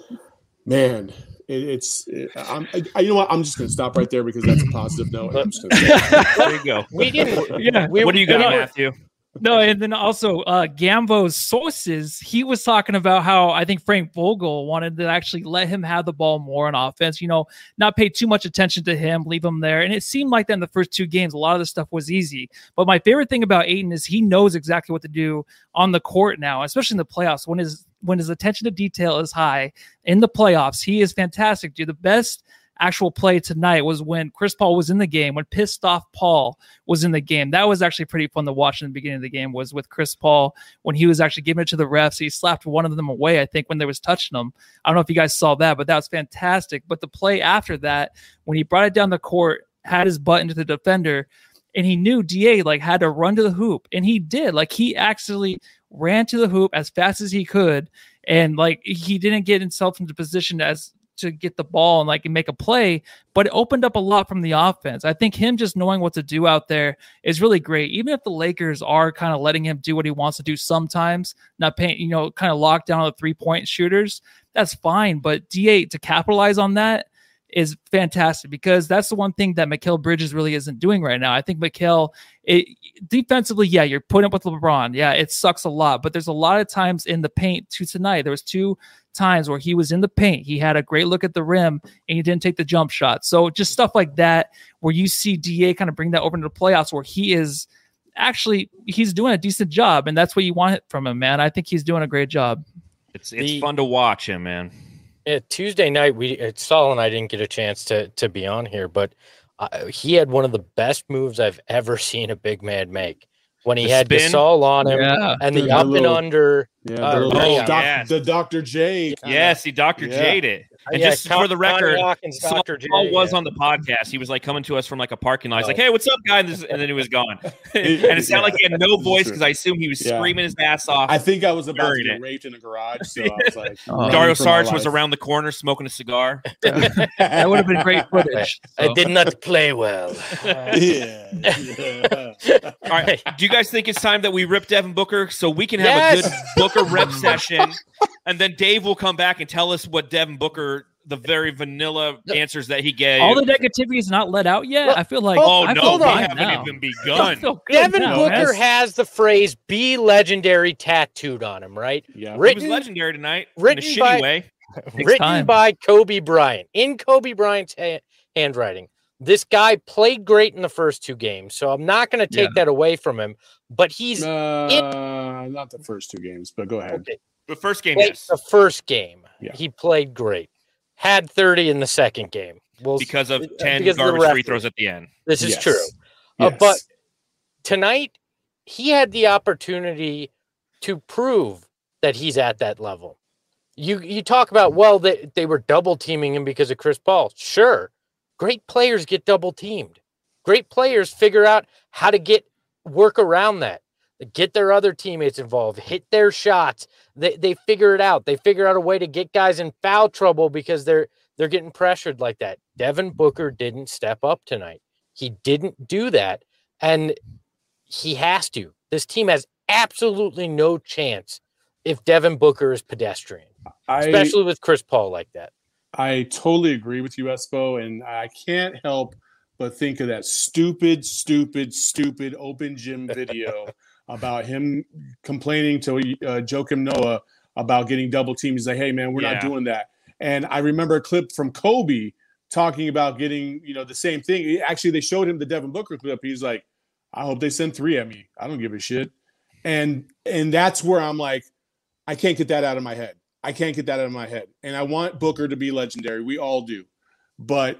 man, it, it's it, I'm, I, you know what? I'm just going to stop right there because that's a positive note. I'm just gonna There you go. We didn't. Yeah. We, What do you got, you know- Matthew? No, and then also uh Gambo's sources, he was talking about how I think Frank Vogel wanted to actually let him have the ball more on offense, you know, not pay too much attention to him, leave him there. And it seemed like that in the first two games, a lot of the stuff was easy. But my favorite thing about Ayton is he knows exactly what to do on the court now, especially in the playoffs when his when his attention to detail is high in the playoffs. He is fantastic, dude. The best actual play tonight was when Chris Paul was in the game, when pissed off Paul was in the game. That was actually pretty fun to watch in the beginning of the game, was with Chris Paul when he was actually giving it to the refs. He slapped one of them away, I think, when they was touching them. I don't know if you guys saw that, but that was fantastic. But the play after that, when he brought it down the court, had his butt into the defender, and he knew D A like had to run to the hoop, and he did. Like he actually ran to the hoop as fast as he could, and like he didn't get himself into position as to get the ball and like make a play, but it opened up a lot from the offense. I think him just knowing what to do out there is really great. Even if the Lakers are kind of letting him do what he wants to do sometimes, not paying, you know, kind of lock down on the three point shooters, that's fine. But D A to capitalize on that is fantastic, because that's the one thing that Mikal Bridges really isn't doing right now. I think Mikal, it, defensively, yeah, you're putting up with LeBron. Yeah, it sucks a lot, but there's a lot of times in the paint too tonight. There was two times where he was in the paint. He had a great look at the rim and he didn't take the jump shot. So just stuff like that, where you see D A kind of bring that over into the playoffs, where he is actually, he's doing a decent job, and that's what you want from him, man. I think he's doing a great job. It's it's The- fun to watch him, man. Yeah, Tuesday night, we uh, Saul and I didn't get a chance to to be on here, but uh, he had one of the best moves I've ever seen a big man make when he The had spin? Gasol on him Yeah. and the, The up and little- under. Yeah, Uh, the, little oh, doc, yes. the Doctor J. kinda- Yeah, see, Doctor Yeah. Jade it. And Yeah, just Con- for the record, Connie Hawkins, Saul, Doctor J, Saul was yeah. on the podcast. He was like coming to us from like a parking lot. He's Oh. like, "Hey, what's up, guy?" And, this, and then he was gone. and it sounded like he had no voice because I assume he was Yeah. screaming his ass off. I think I was about to Buried get it. raped in a garage, so I was like, Oh. running Dario for my Saric was life. around the corner smoking a cigar. That would have been great footage. I So. did not play well. Yeah. yeah. All right. Do you guys think it's time that we rip Devin Booker so we can have Yes. a good Booker rep session? And then Dave will come back and tell us what Devin Booker, the very vanilla answers that he gave. All the negativity is not let out yet. Well, I feel like oh, I no, feel we fine haven't now. even I begun. feel good Devin now, Booker man. has the phrase "be legendary" tattooed on him, right? Yeah. He was Written, legendary tonight written in a shitty by- way. written time. by Kobe Bryant in Kobe Bryant's ha- handwriting. This guy played great in the first two games, so I'm not going to take that away from him. But he's Uh, not the first two games, but go ahead. okay. The first game, Played yes. the first game. Yeah. He played great. Had thirty in the second game. Well, Because of uh, ten because of the garbage free referee. throws at the end. This is Yes. true. Uh, Yes. but tonight, he had the opportunity to prove that he's at that level. You you talk about, well, they, they were double teaming him because of Chris Paul. Sure. Great players get double teamed. Great players figure out how to get work around that, get their other teammates involved, hit their shots. They they figure it out. They figure out a way to get guys in foul trouble because they're they're getting pressured like that. Devin Booker didn't step up tonight. He didn't do that, and he has to. This team has absolutely no chance if Devin Booker is pedestrian, I, especially with Chris Paul like that. I totally agree with you, Espo, and I can't help but think of that stupid, stupid, stupid open gym video about him complaining to uh, Joakim Noah about getting double teamed. He's like, "Hey, man, we're Yeah. not doing that." And I remember a clip from Kobe talking about getting, you know, the same thing. Actually, they showed him the Devin Booker clip. He's like, "I hope they send three at me. I don't give a shit." And and that's where I'm like, I can't get that out of my head. I can't get that out of my head. And I want Booker to be legendary. We all do. But,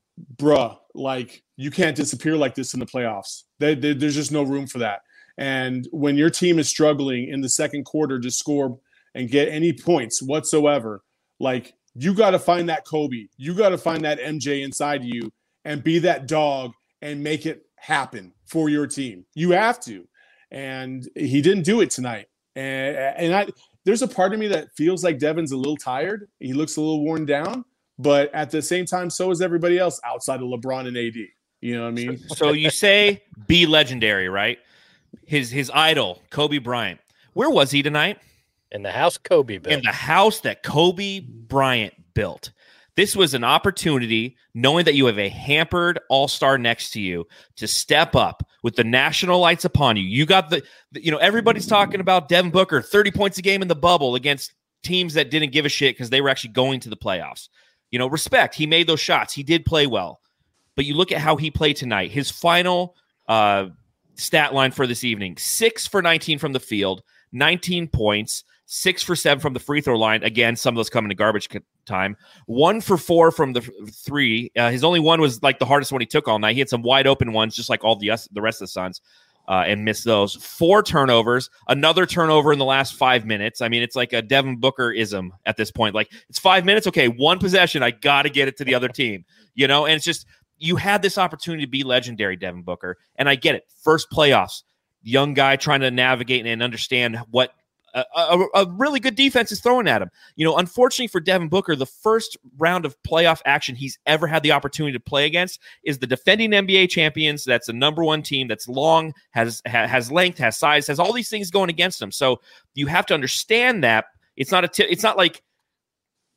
bruh, like, you can't disappear like this in the playoffs. There, there, there's just no room for that. And when your team is struggling in the second quarter to score and get any points whatsoever, like, you got to find that Kobe. You got to find that M J inside you and be that dog and make it happen for your team. You have to. And he didn't do it tonight. And, and I, there's a part of me that feels like Devin's a little tired. He looks a little worn down, but at the same time, so is everybody else outside of LeBron and A D. You know what I mean? So you say be legendary, right? His his idol, Kobe Bryant. Where was he tonight? In the house Kobe built. In the house that Kobe Bryant built. This was an opportunity, knowing that you have a hampered all-star next to you, to step up with the national lights upon you. You got the, the you know, everybody's talking about Devin Booker, thirty points a game in the bubble against teams that didn't give a shit because they were actually going to the playoffs. You know, respect. He made those shots. He did play well. But you look at how he played tonight. His final uh, stat line for this evening, six for nineteen from the field, nineteen points, six for seven from the free throw line. Again, some of those come into garbage time. One for four from the three. Uh, his only one was like the hardest one he took all night. He had some wide open ones, just like all the, the rest of the Suns, uh, and missed those. Four turnovers, another turnover in the last five minutes. I mean, it's like a Devin Booker-ism at this point. Like, it's five minutes. Okay, one possession. I got to get it to the other team, you know? And it's just, you had this opportunity to be legendary, Devin Booker. And I get it. First playoffs, young guy trying to navigate and understand what A, a, a really good defense is throwing at him. You know, unfortunately for Devin Booker, the first round of playoff action he's ever had the opportunity to play against is the defending N B A champions. That's the number one team that's long, has ha, has length, has size, has all these things going against him. So you have to understand that it's not a t- it's not like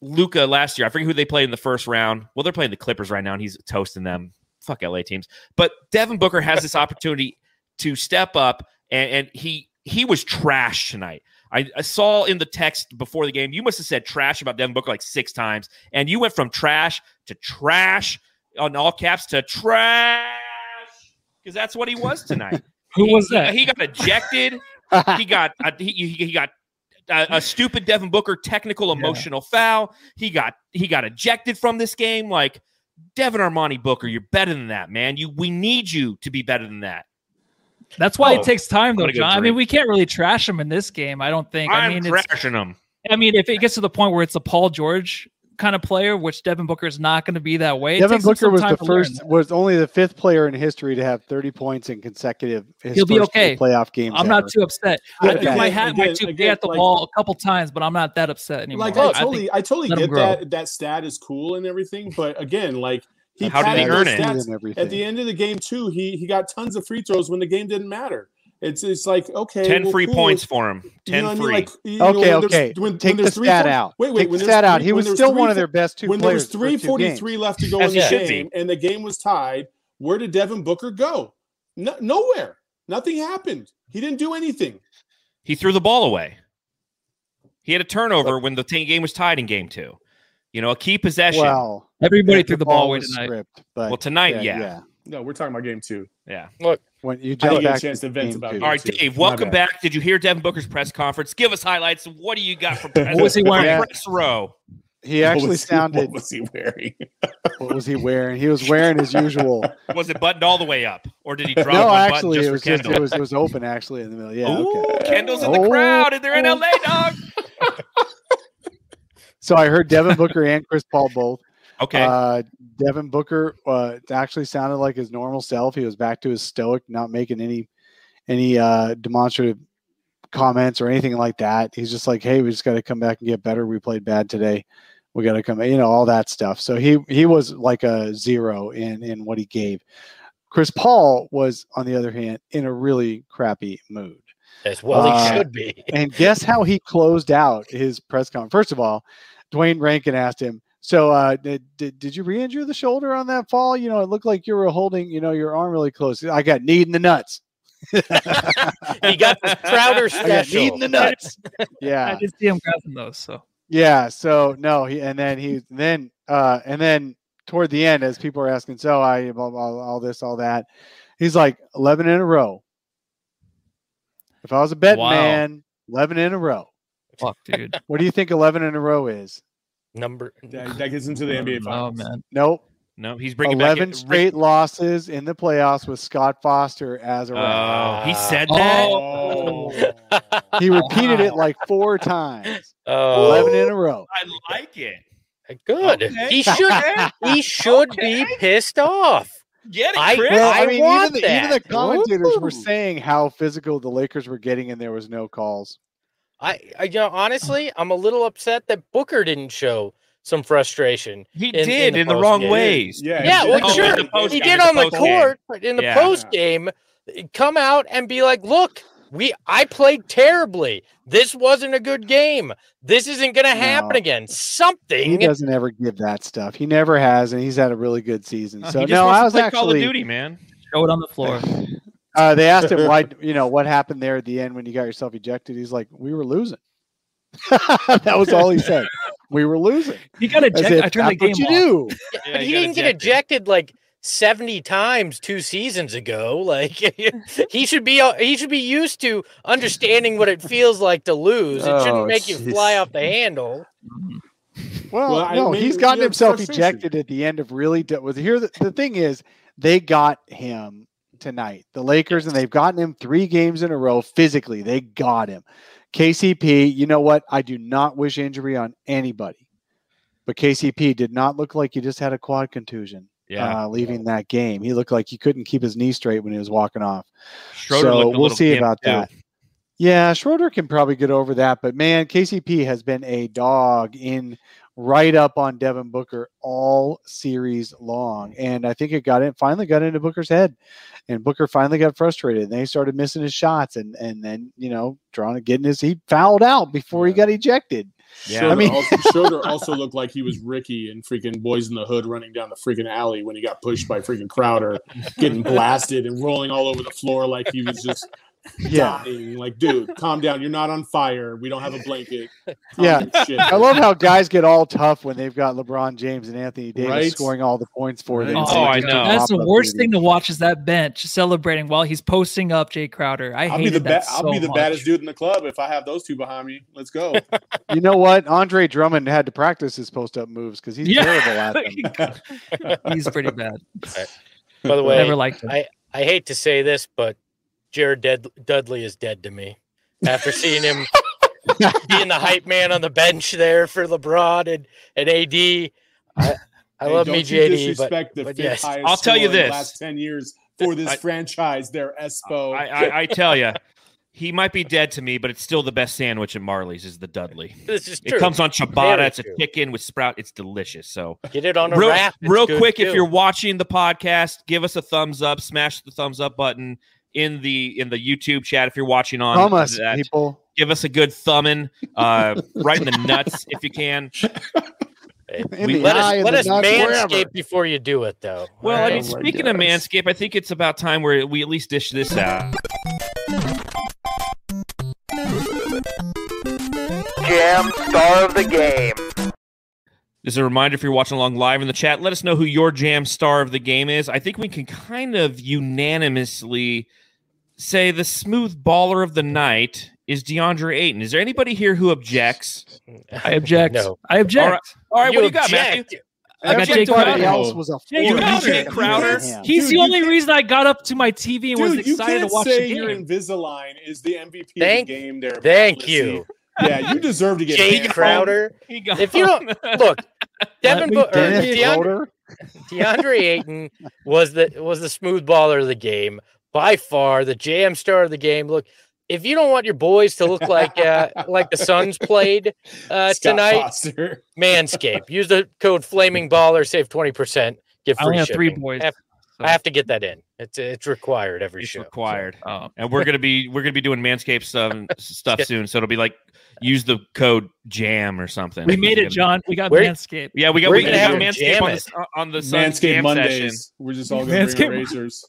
Luka last year. I forget who they played in the first round. Well, they're playing the Clippers right now, and he's toasting them. Fuck L A teams. But Devin Booker has this opportunity to step up, and, and he he was trash tonight. I, I saw in the text before the game, you must have said trash about Devin Booker like six times, and you went from trash to trash on all caps to trash because that's what he was tonight. Who he, was that? He, he got ejected. he got uh, he, he got a, a stupid Devin Booker technical emotional yeah. foul. He got he got ejected from this game. Like Devin Armani Booker, you're better than that, man. You we need you to be better than that. That's why oh, it takes time, though, John. I mean, drink. we can't really trash him in this game. I don't think. I'm I mean, trashing him. I mean, if it gets to the point where it's a Paul George kind of player, which Devin Booker is not going to be that way. Devin Booker was the first, was only the fifth player in history to have thirty points in consecutive. His He'll be okay. Playoff games. I'm ever. not too upset. Yeah, I threw my hat, again, my two again, at the like, wall a couple times, but I'm not that upset anymore. Like I I totally, think, I totally let him get grow. that. That stat is cool and everything, but again, like he How did he padded earn those it? stats And everything. at the end of the game too. He he got tons of free throws when the game didn't matter. It's it's like okay, ten well, free cool. points for him. Ten you know what free. I mean? Like, you know, Okay, when okay. When, Take when the there's three stat four- out. Wait, wait. Take when the there's stat out. three- He when was there's still three one of fo- their best two when there players. was three forty-three left to go As in the he should game, be. and the game was tied. Where did Devin Booker go? No, nowhere. Nothing happened. He didn't do anything. He threw the ball away. He had a turnover when the t- game was tied in game two. You know, a key possession. Well, Everybody the threw the ball away was tonight. Script, but well, tonight, yeah, yeah. yeah. No, we're talking about game two. Yeah. When you I jump didn't get back a chance to vent game about two. it. All right, too. Dave, My welcome bad. back. Did you hear Devin Booker's press conference? Give us highlights. What do you got for press, What was he wearing? for press row? He What actually was he- sounded. What was he wearing? What was he wearing? He was wearing his usual. Was it buttoned all the way up, or did he drop No, one actually, button it was just for just Kendall? it was it was open actually in the middle. Yeah. Ooh, Okay. Kendall's in the Oh. crowd, and they're in L A, dog. So I heard Devin Booker and Chris Paul both. Okay. Uh, Devin Booker uh, it actually sounded like his normal self. He was back to his stoic, not making any any uh, demonstrative comments or anything like that. He's just like, "Hey, we just got to come back and get better. We played bad today. We got to come," you know, all that stuff. So he he was like a zero in in what he gave. Chris Paul was, on the other hand, in a really crappy mood. As well, he Uh, should be. And guess how he closed out his press conference? First of all, Dwayne Rankin asked him, so uh, did, did, did you re-injure the shoulder on that fall? You know, it looked like you were holding, you know, your arm really close. I got kneed in the nuts. He got the Crowder I got kneed special. in the nuts. I Yeah. did see him grabbing those. So Yeah. So no, he, and then he, then, uh, and then toward the end, as people are asking, so I, blah, blah, blah, all this, all that, he's like eleven in a row. If I was a betting Wow. man, eleven in a row. fuck, dude. What do you think eleven in a row is? Number. That, that gets into the N B A Oh finals. man, Nope. No, he's bringing eleven back straight losses in the playoffs with Scott Foster as a ref. Oh, he said that. Oh. He repeated it like four times. Oh, eleven in a row. I like it. good. Okay. He should. He should Okay. be pissed off. Get it, I- Chris. Well, I I, mean, want even the, even the that. commentators were Ooh. saying how physical the Lakers were getting, and there was no calls. I, I, you know, honestly, I'm a little upset that Booker didn't show some frustration. he in- did in the in the post wrong game. ways. Yeah, Yeah, he well, did. Oh, sure, in the post he game, did in on the the post game. court, but in the Yeah. post game, come out and be like, "Look, we, I played terribly. This wasn't a good game. This isn't going to happen No. again. He Something." doesn't ever give that stuff. He never has, and he's had a really good season. Uh, So he just no, wants I to was play Call of actually. Duty, man. show it on the floor. Uh, they asked him why, you know, what happened there at the end when you got yourself ejected. He's like, "We were losing." That was all he said. We were losing. He got As ejected. if I turned the that's game what you off. do. Yeah, But he got didn't get ejected like seventy times two seasons ago. Like he should be he should be used to understanding what it feels like to lose. It Oh, shouldn't make you jeez. fly off the handle. Well, Well, I no, mean, he's gotten you have himself frustration. ejected at the end of really. De- with here, the, the thing is, they got him tonight, the Lakers, and they've gotten him three games in a row. Physically, they got him. K C P, you know what? I do not wish injury on anybody, but K C P did not look like he just had a quad contusion. Yeah. Uh, leaving that game, he looked like he couldn't keep his knee straight when he was walking off. Schroeder so looked a we'll little see gimped, about too. that. Yeah, Schroeder can probably get over that, but man, K C P has been a dog in right up on Devin Booker all series long, and I think it got in finally got into Booker's head, and Booker finally got frustrated, and they started missing his shots, and and then you know trying to get in his he fouled out before he got ejected. Yeah. Schroeder I mean- also, Schroeder also looked like he was Ricky in freaking Boys in the Hood running down the freaking alley when he got pushed by freaking Crowder, getting blasted and rolling all over the floor like he was just Yeah. dying. Like, dude, calm down. You're not on fire. We don't have a blanket. Calm Yeah. your shit. I love how guys get all tough when they've got LeBron James and Anthony Davis Right? scoring all the points for them. Right. So Oh, they I just know. do That's the pop-up worst duty. thing to watch is that bench celebrating while he's posting up Jay Crowder. I I'll be hated the that ba- so I'll be the much. baddest dude in the club if I have those two behind me. Let's go. You know what? Andre Drummond had to practice his post-up moves because he's Yeah. terrible at them. He's pretty bad. By the way, Never liked him. I, I hate to say this, but Jared Ded- Dudley is dead to me. After seeing him being the hype man on the bench there for LeBron and, and A D, I, I Hey, love don't me you J D, but, disrespect the but fifth yes. highest I'll tell you scorer in this. the last ten years for this I- franchise. They're Espo. I, I, I tell you, he might be dead to me, but it's still the best sandwich at Marley's is the Dudley. This is true. It comes on ciabatta. Very It's a true. chicken with sprout. It's delicious. So Get it on a real, wrap. It's real good quick, too. if you're watching the podcast, give us a thumbs up. Smash the thumbs up button in the in the YouTube chat if you're watching on Thumb us, that. people. Give us a good thumbing, uh, right in the nuts if you can. In We- the let eye us, of let the us nuts, wherever. manscape before you do it, though. Well, All I right? mean, speaking of Manscaped, I think it's about time where we at least dish this out. Jam star of the game. As a reminder, if you're watching along live in the chat, let us know who your jam star of the game is. I think we can kind of unanimously say the smooth baller of the night is DeAndre Ayton. Is there anybody here who objects? I object. No. I object. All right. All right, what do you got, object. Matthew? I got Jay Everybody Crowder. else was a Jay force. Crowder. Jay to Crowder. him. He's Dude, the you only can't- reason I got up to my T V and was Dude, you excited can't to watch say the your game. Invisalign is the M V P Thank- of the game there. Thank Matt. you, Yeah, you deserve to get Jay banned. Crowder. He got- If you don't look, Devin me Bo- or Dennis DeAndre, Schroeder? DeAndre Ayton was the was the smooth baller of the game by far, the J M star of the game. Look, if you don't want your boys to look like uh, like the Suns played uh, Scott tonight, Foster. Manscaped. Use the code Flaming Baller, save twenty percent, get I free only have three shipping. boys. I have, so- I have to get that in. It's it's required every It's show. required. Oh. And we're gonna be we're gonna be doing Manscaped stuff stuff soon. So it'll be like use the code JAM or something. We made it, John. We got Where- Manscaped. Yeah, we got We're we gonna got have him Manscaped jam on it. the, on the Suns Manscaped jam Mondays. session. We're just all going to bring Manscaped- razors.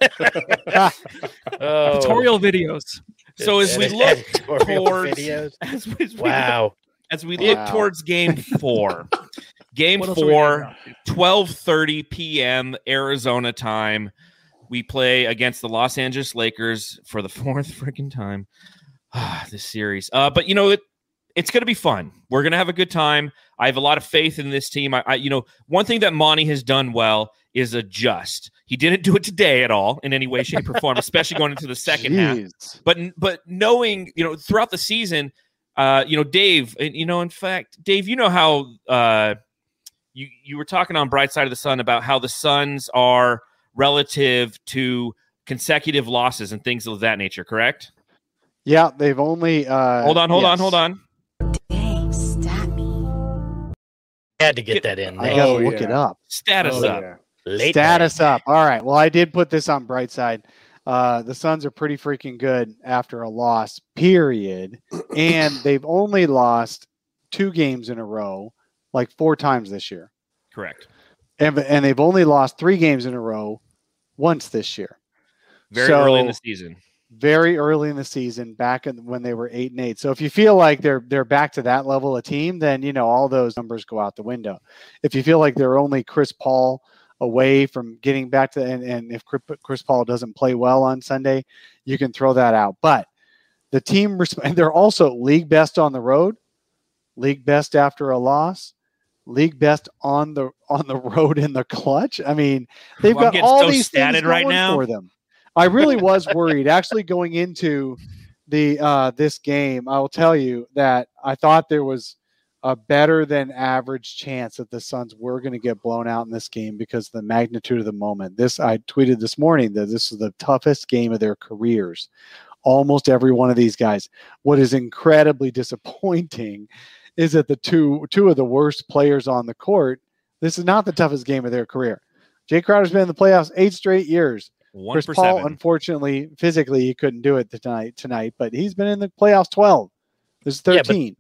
Oh, Tutorial videos. So as we and- look and tutorial towards videos. as we, as we- Wow. as we look Wow. towards game four. Game What else are we four, doing now? twelve thirty p.m. Arizona time. We play against the Los Angeles Lakers for the fourth freaking time. Ah, this series. Uh, but you know, it, it's going to be fun. We're going to have a good time. I have a lot of faith in this team. I, I, you know, one thing that Monty has done well is adjust. He didn't do it today at all in any way, shape, or form, especially going into the second half. Jeez. But but knowing, you know, throughout the season, uh, you know, Dave, and you know, in fact, Dave, you know how uh, you you were talking on Bright Side of the Sun about how the Suns are relative to consecutive losses and things of that nature, correct? Yeah, they've only. Uh, hold on, hold on, yes. hold on. Dang, stat me. Had to get that in. I there. gotta Oh, look yeah. it up. Status Oh, up. yeah. Late Status night. up. All right. Well, I did put this on Brightside. Uh, the Suns are pretty freaking good after a loss, period. And they've only lost two games in a row, like four times this year. Correct. And, and they've only lost three games in a row once this year. Very So- early in the season. Very early in the season, back in, when they were eight and eight. So if you feel like they're they're back to that level of team, then you know all those numbers go out the window. If you feel like they're only Chris Paul away from getting back to, and, and if Chris Paul doesn't play well on Sunday, you can throw that out. But the team, and they're also league best on the road, league best after a loss, league best on the on the road in the clutch. I mean, they've Well, I'm got getting all so these things statted right going now. for them. I really was worried actually going into the uh, this game. I will tell you that I thought there was a better than average chance that the Suns were going to get blown out in this game because of the magnitude of the moment. This I tweeted this morning that this is the toughest game of their careers. Almost every one of these guys. What is incredibly disappointing is that the two two of the worst players on the court. This is not the toughest game of their career. Jay Crowder's been in the playoffs eight straight years. One Chris for Paul, seven. unfortunately, physically he couldn't do it tonight. Tonight, but he's been in the playoffs twelve. This is Yeah, but- thirteen.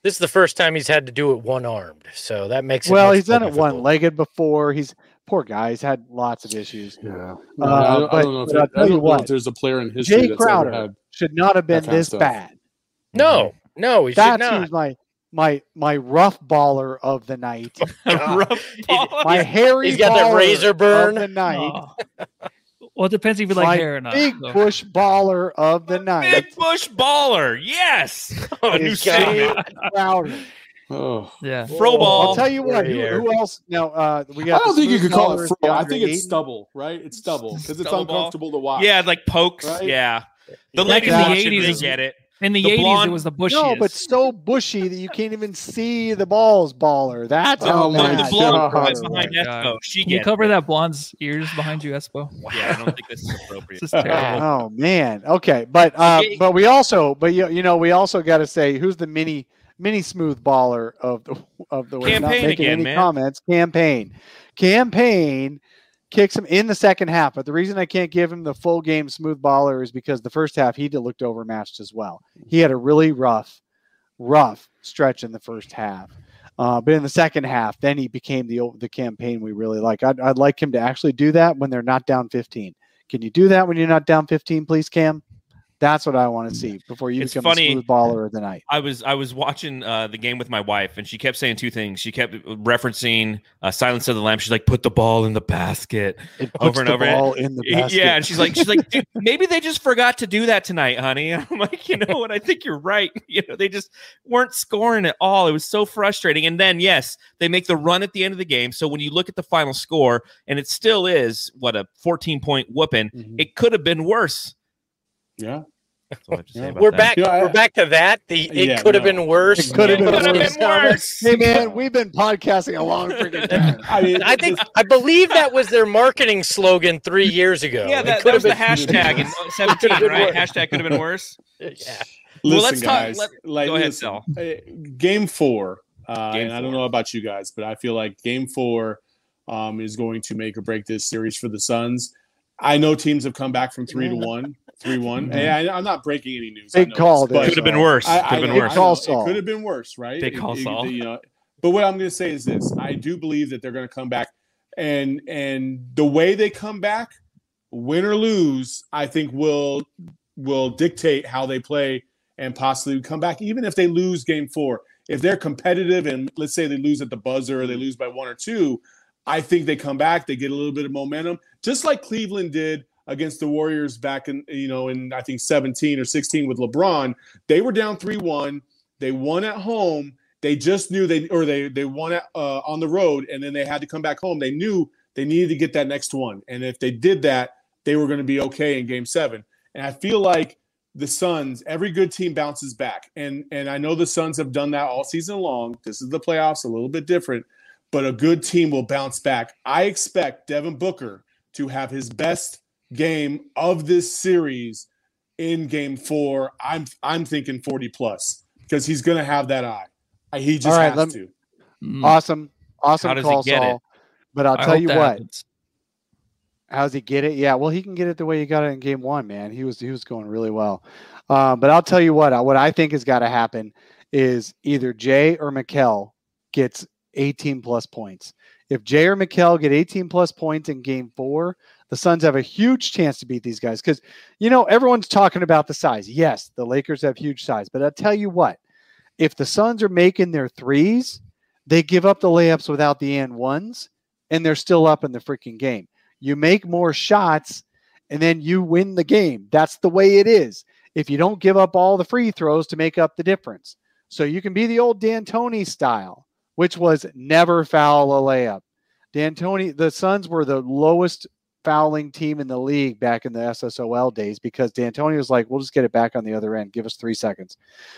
This is the first time he's had to do it one-armed, so that makes it Well, much he's done more it difficult. one-legged before. He's poor guy. He's had lots of issues. Yeah, Uh, I, don't, but- I don't know if but I'll it- tell I you don't know what, if there's a player in history Jay that's Crowder ever had. should not have been that kind of this stuff. bad. No, no, he should That's not. who's my my my rough baller of the night. Rough ball. My hairy He's got that baller razor burn. of the night. Oh. Well, it depends if you like my hair or not. big so. bush baller of the night. Big Bush baller. Yes. A new is Jay segment. Crowder. Oh, Yeah. Fro Whoa. ball. I'll tell you what. Who, Here. who else? Now uh, we I got. don't the think you smooth could call it ballers, fro. I DeAndre think it's Ayton. stubble, right? It's stubble because it's Stubble ball. uncomfortable to watch. Yeah, like pokes. Right? Yeah. The Back ladies in the watching, eighties they is- get it. In the, The eighties, blonde- it was the bushiest. No, but so bushy that you can't even see the balls baller. That's how Oh my The bad blonde God. right Crowder behind was. Espo. She Can you gets cover it. that blonde's ears behind you, Espo? Yeah, I don't think this is appropriate. This is terrible. Oh man. Okay, but uh, Okay. but we also, but you, you know, we also got to say who's the mini mini smooth baller of the of the week. Not Campaign making again, any man. comments. Campaign, campaign kicks him in the second half. But the reason I can't give him the full game smooth baller is because the first half he did looked overmatched as well. He had a really rough, rough stretch in the first half. Uh, but in the second half, then he became the the campaign we really like. I'd, I'd like him to actually do that when they're not down fifteen. Can you do that when you're not down fifteen, please, Cam? That's what I want to see before you It's become funny. a smooth baller of the night. I was I was watching uh, the game with my wife, and she kept saying two things. She kept referencing uh, Silence of the Lambs. She's like, "Put the ball in the basket." It puts over and the over. ball in the basket. Yeah, and she's like, she's like, "Dude, maybe they just forgot to do that tonight, honey." And I'm like, you know what? I think you're right. You know, they just weren't scoring at all. It was so frustrating. And then, yes, they make the run at the end of the game. So when you look at the final score, and it still is what a fourteen point whooping, Mhm. it could have been worse. Yeah. That's all I have to say Yeah. about We're that. back. Yeah, I- we're back to that. The it Yeah, could have no. been worse. It could have It been could have worse. been worse. Hey man, we've been podcasting a long freaking time. I mean, I think I believe that was their marketing slogan three years ago. Yeah, It that, could that was have the been- hashtag in seventeen, Could've been right? worse. Hashtag could have been worse. Yeah. Well, listen, let's talk- guys. let- like, go ahead, listen, Sal. uh, Game four, uh, Game and I don't four. know about you guys, but I feel like Game four um, is going to make or break this series for the Suns. I know teams have come back from three to one, three one. Mhm. Hey, I, I'm not breaking any news. I Big know call this, but- there. Could have been worse. I, Could have I- been I Big worse. know, call, it Saul. could have been worse, right? Big It- call, it- Saul. You know, but what I'm going to say is this: I do believe that they're going to come back, and and the way they come back, win or lose, I think will will dictate how they play and possibly come back, even if they lose Game four. If they're competitive and let's say they lose at the buzzer or they lose by one or two, I think they come back. They get a little bit of momentum, just like Cleveland did against the Warriors back in, you know, in I think seventeen or sixteen with LeBron. They were down three one. They won at home. They just knew they or they they won at, uh, on the road, and then they had to come back home. They knew they needed to get that next one, and if they did that, they were going to be okay in Game seven. And I feel like the Suns, every good team bounces back, and and I know the Suns have done that all season long. This is the playoffs, a little bit different, but a good team will bounce back. I expect Devin Booker to have his best game of this series in Game Four. I'm I'm thinking forty plus because he's going to have that eye. He just All right, has let- to. Mm. Awesome, awesome How does he call, get it? Saul. But I'll I tell hope you that what. happens. How's he get it? Yeah, well, he can get it the way he got it in game one, man. He was he was going really well. Um, but I'll tell you what, what I think has got to happen is either Jay or Mikal gets eighteen plus points. If Jay or Mikal get eighteen plus points in game four, the Suns have a huge chance to beat these guys. Because, you know, everyone's talking about the size. Yes, the Lakers have huge size. But I'll tell you what, if the Suns are making their threes, they give up the layups without the and ones, and they're still up in the freaking game. You make more shots, and then you win the game. That's the way it is. If you don't give up all the free throws to make up the difference. So you can be the old D'Antoni style, which was never foul a layup. D'Antoni, the Suns were the lowest fouling team in the league back in the S S O L days because D'Antoni was like, we'll just get it back on the other end. Give us three seconds.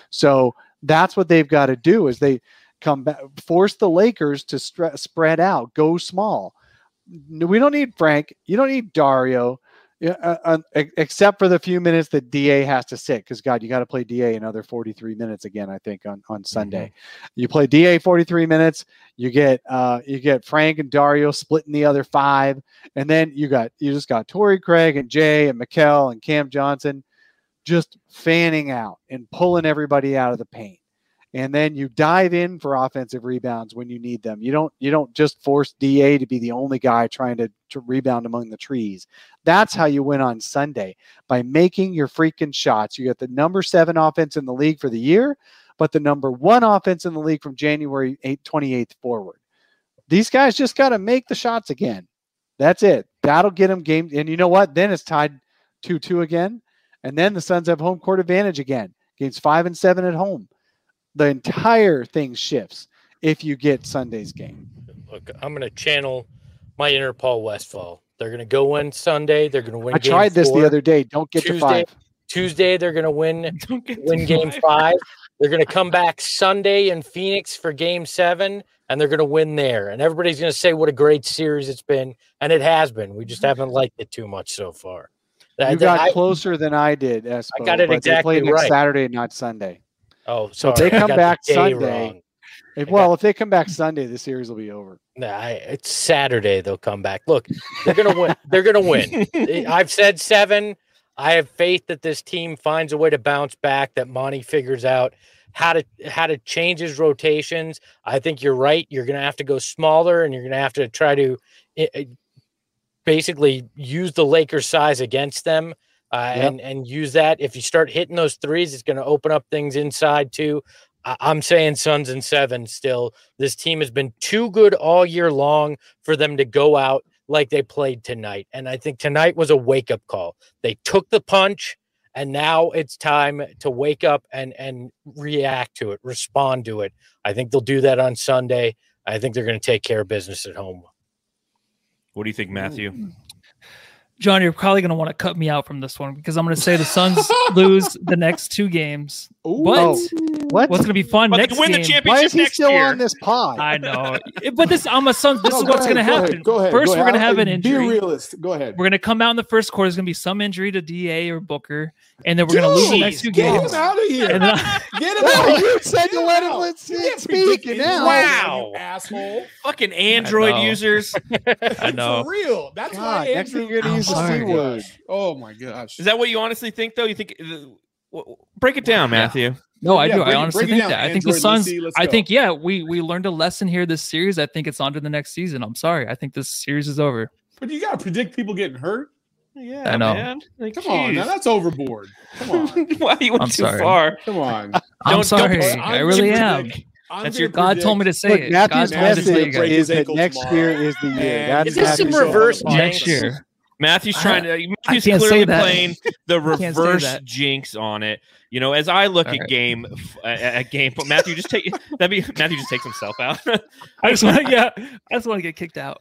So that's what they've got to do is they come back, force the Lakers to stre- spread out, go small. We don't need Frank. You don't need Dario, uh, uh, except for the few minutes that D A has to sit. Because God, you got to play D A another forty-three minutes again. I think on, on Sunday, mm-hmm. You play D A forty-three minutes. You get uh, you get Frank and Dario splitting the other five, and then you got you just got Torrey Craig and Jay and Mikal and Cam Johnson, just fanning out and pulling everybody out of the paint. and then you dive in for offensive rebounds when you need them. You don't you don't just force D A to be the only guy trying to, to rebound among the trees. That's how you win on Sunday, by making your freaking shots. You got the number seven offense in the league for the year, but the number one offense in the league from January twenty-eighth forward. These guys just got to make the shots again. That's it. That'll get them game. And you know what? Then it's tied two two again. And then the Suns have home court advantage again. Games five and seven at home. The entire thing shifts if you get Sunday's game. Look, I'm going to channel my inner Paul Westphal. They're going to go win Sunday. They're going to win. I game tried this four. the other day. Don't get Tuesday, to five. Tuesday, they're going to win, Don't get win to game five. five. They're going to come back Sunday in Phoenix for game seven, and they're going to win there. And everybody's going to say what a great series it's been, and it has been. We just haven't liked it too much so far. You I- got I- closer than I did. Espo, I got it but exactly they play next right. Saturday, not Sunday. Oh, So if sorry, they I come got the back day Sunday- wrong. If- well, if they come back Sunday, the series will be over. Nah, I, it's Saturday. They'll come back. Look, they're gonna win. They're gonna win. I've said seven. I have faith that this team finds a way to bounce back. That Monty figures out how to how to change his rotations. I think you're right. You're gonna have to go smaller, and you're gonna have to try to uh, basically use the Lakers' size against them, uh, Yep. and and use that. If you start hitting those threes, it's gonna open up things inside too. I'm saying Suns and seven still. This team has been too good all year long for them to go out like they played tonight. And I think tonight was a wake-up call. They took the punch, and now it's time to wake up and, and react to it, respond to it. I think they'll do that on Sunday. I think they're going to take care of business at home. What do you think, Matthew? John, you're probably going to want to cut me out from this one because I'm going to say the Suns lose the next two games. But Oh, what? what's going to be fun But they next win the game? championship Why is he next still year. on this pod? I know, but this I'm a Suns. This No, is go what's ahead, going to go happen. ahead, Go ahead. First, go we're going to ahead. have an Be injury. a realist. Go ahead. We're going to come out in the first quarter. There's going to be some injury to D A or Booker, and then we're going to lose the next two Get games. him out of here. And then, Get him No, out. you said to let him out. let's You can't speak, predict and it. now- Wow. You asshole. Fucking Android know. users. I know. For real. That's God, why next thing Andrew. you're gonna use the sorry. C word. Oh my gosh. Is that what you honestly think, though? You think? Uh, w- break it down, Matthew. no, I Yeah, do. break I it- honestly break it think down, that. I think the Android. Suns. Let's see, let's I go. think yeah, we we learned a lesson here this series. I think it's on to the next season. I'm sorry. I think this series is over. But you gotta predict people getting hurt. Yeah, I know. man. Like, Come on, now jeez. that's overboard. Come on. Why you went I'm too sorry. far? Come on. I'm Don't- sorry. don't- I really am. I'm That's gonna your- God told me to say Look, it. Matthew's God told me to tell you message break guys. is his that ankle next tomorrow. year is the year. And- That's Is this some Matthew's reverse show. jinx? Next year. Matthew's trying to. I Matthew's can't say clearly that. playing the can't say reverse that. jinx on it. You know, as I look All at right. game at, at game, but Matthew just take that be Matthew just takes himself out. I just want to, yeah, I just want to get kicked out.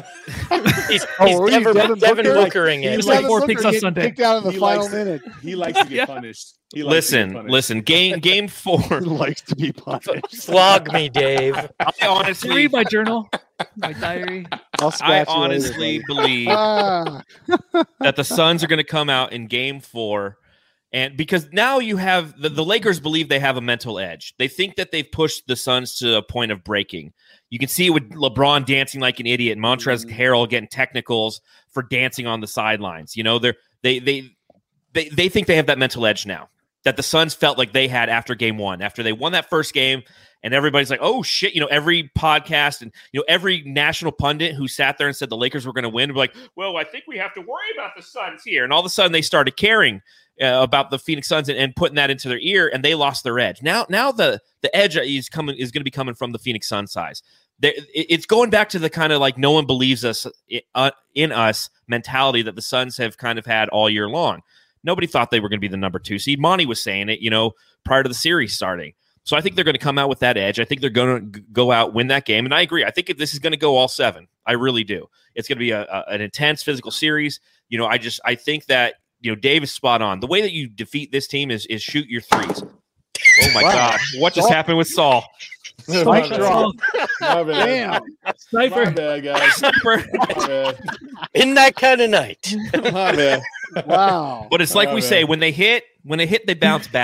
He's, Oh, he's were you Devin, Devin Devin Booker? Bookering He's it. like Devin four Booker picks on getting Sunday. kicked out in the He final likes- minute. He likes to get Yeah. punished. He likes to get listen, punished. listen. Game game four. He likes to be punished. Flog me, Dave. I Did you honestly, read my journal, my diary? I'll I scratch you later, honestly buddy. believe Ah, that the Suns are going to come out in game four. And because now you have the, the Lakers believe they have a mental edge. They think that they've pushed the Suns to a point of breaking. You can see it with LeBron dancing like an idiot and Montrezl Harrell getting technicals for dancing on the sidelines. You know, they're they they they they think they have that mental edge now that the Suns felt like they had after game one, after they won that first game. And everybody's like, oh, shit. You know, every podcast and, you know, every national pundit who sat there and said the Lakers were going to win, were like, well, I think we have to worry about the Suns here. And all of a sudden they started caring uh, about the Phoenix Suns and, and putting that into their ear, and they lost their edge. Now, now the, the edge is coming is going to be coming from the Phoenix Suns size. There, it, it's going back to the kind of like no one believes us uh, in us mentality that the Suns have kind of had all year long. Nobody thought they were going to be the number two seed. Monty was saying it, you know, prior to the series starting. So I think they're going to come out with that edge. I think they're going to go out, win that game. And I agree. I think this is going to go all seven. I really do. It's going to be a, a, an intense physical series. You know, I just, I think that, you know, Dave is spot on. The way that you defeat this team is, is shoot your threes. Oh my Wow. God. What just Saul- happened with Saul? Spike My bad. drop. My bad. Damn. My Sniper. bad, guys. My bad. In that kind of night. My bad. Wow. But it's like Oh, we man. say, when they hit, when they hit, they bounce back.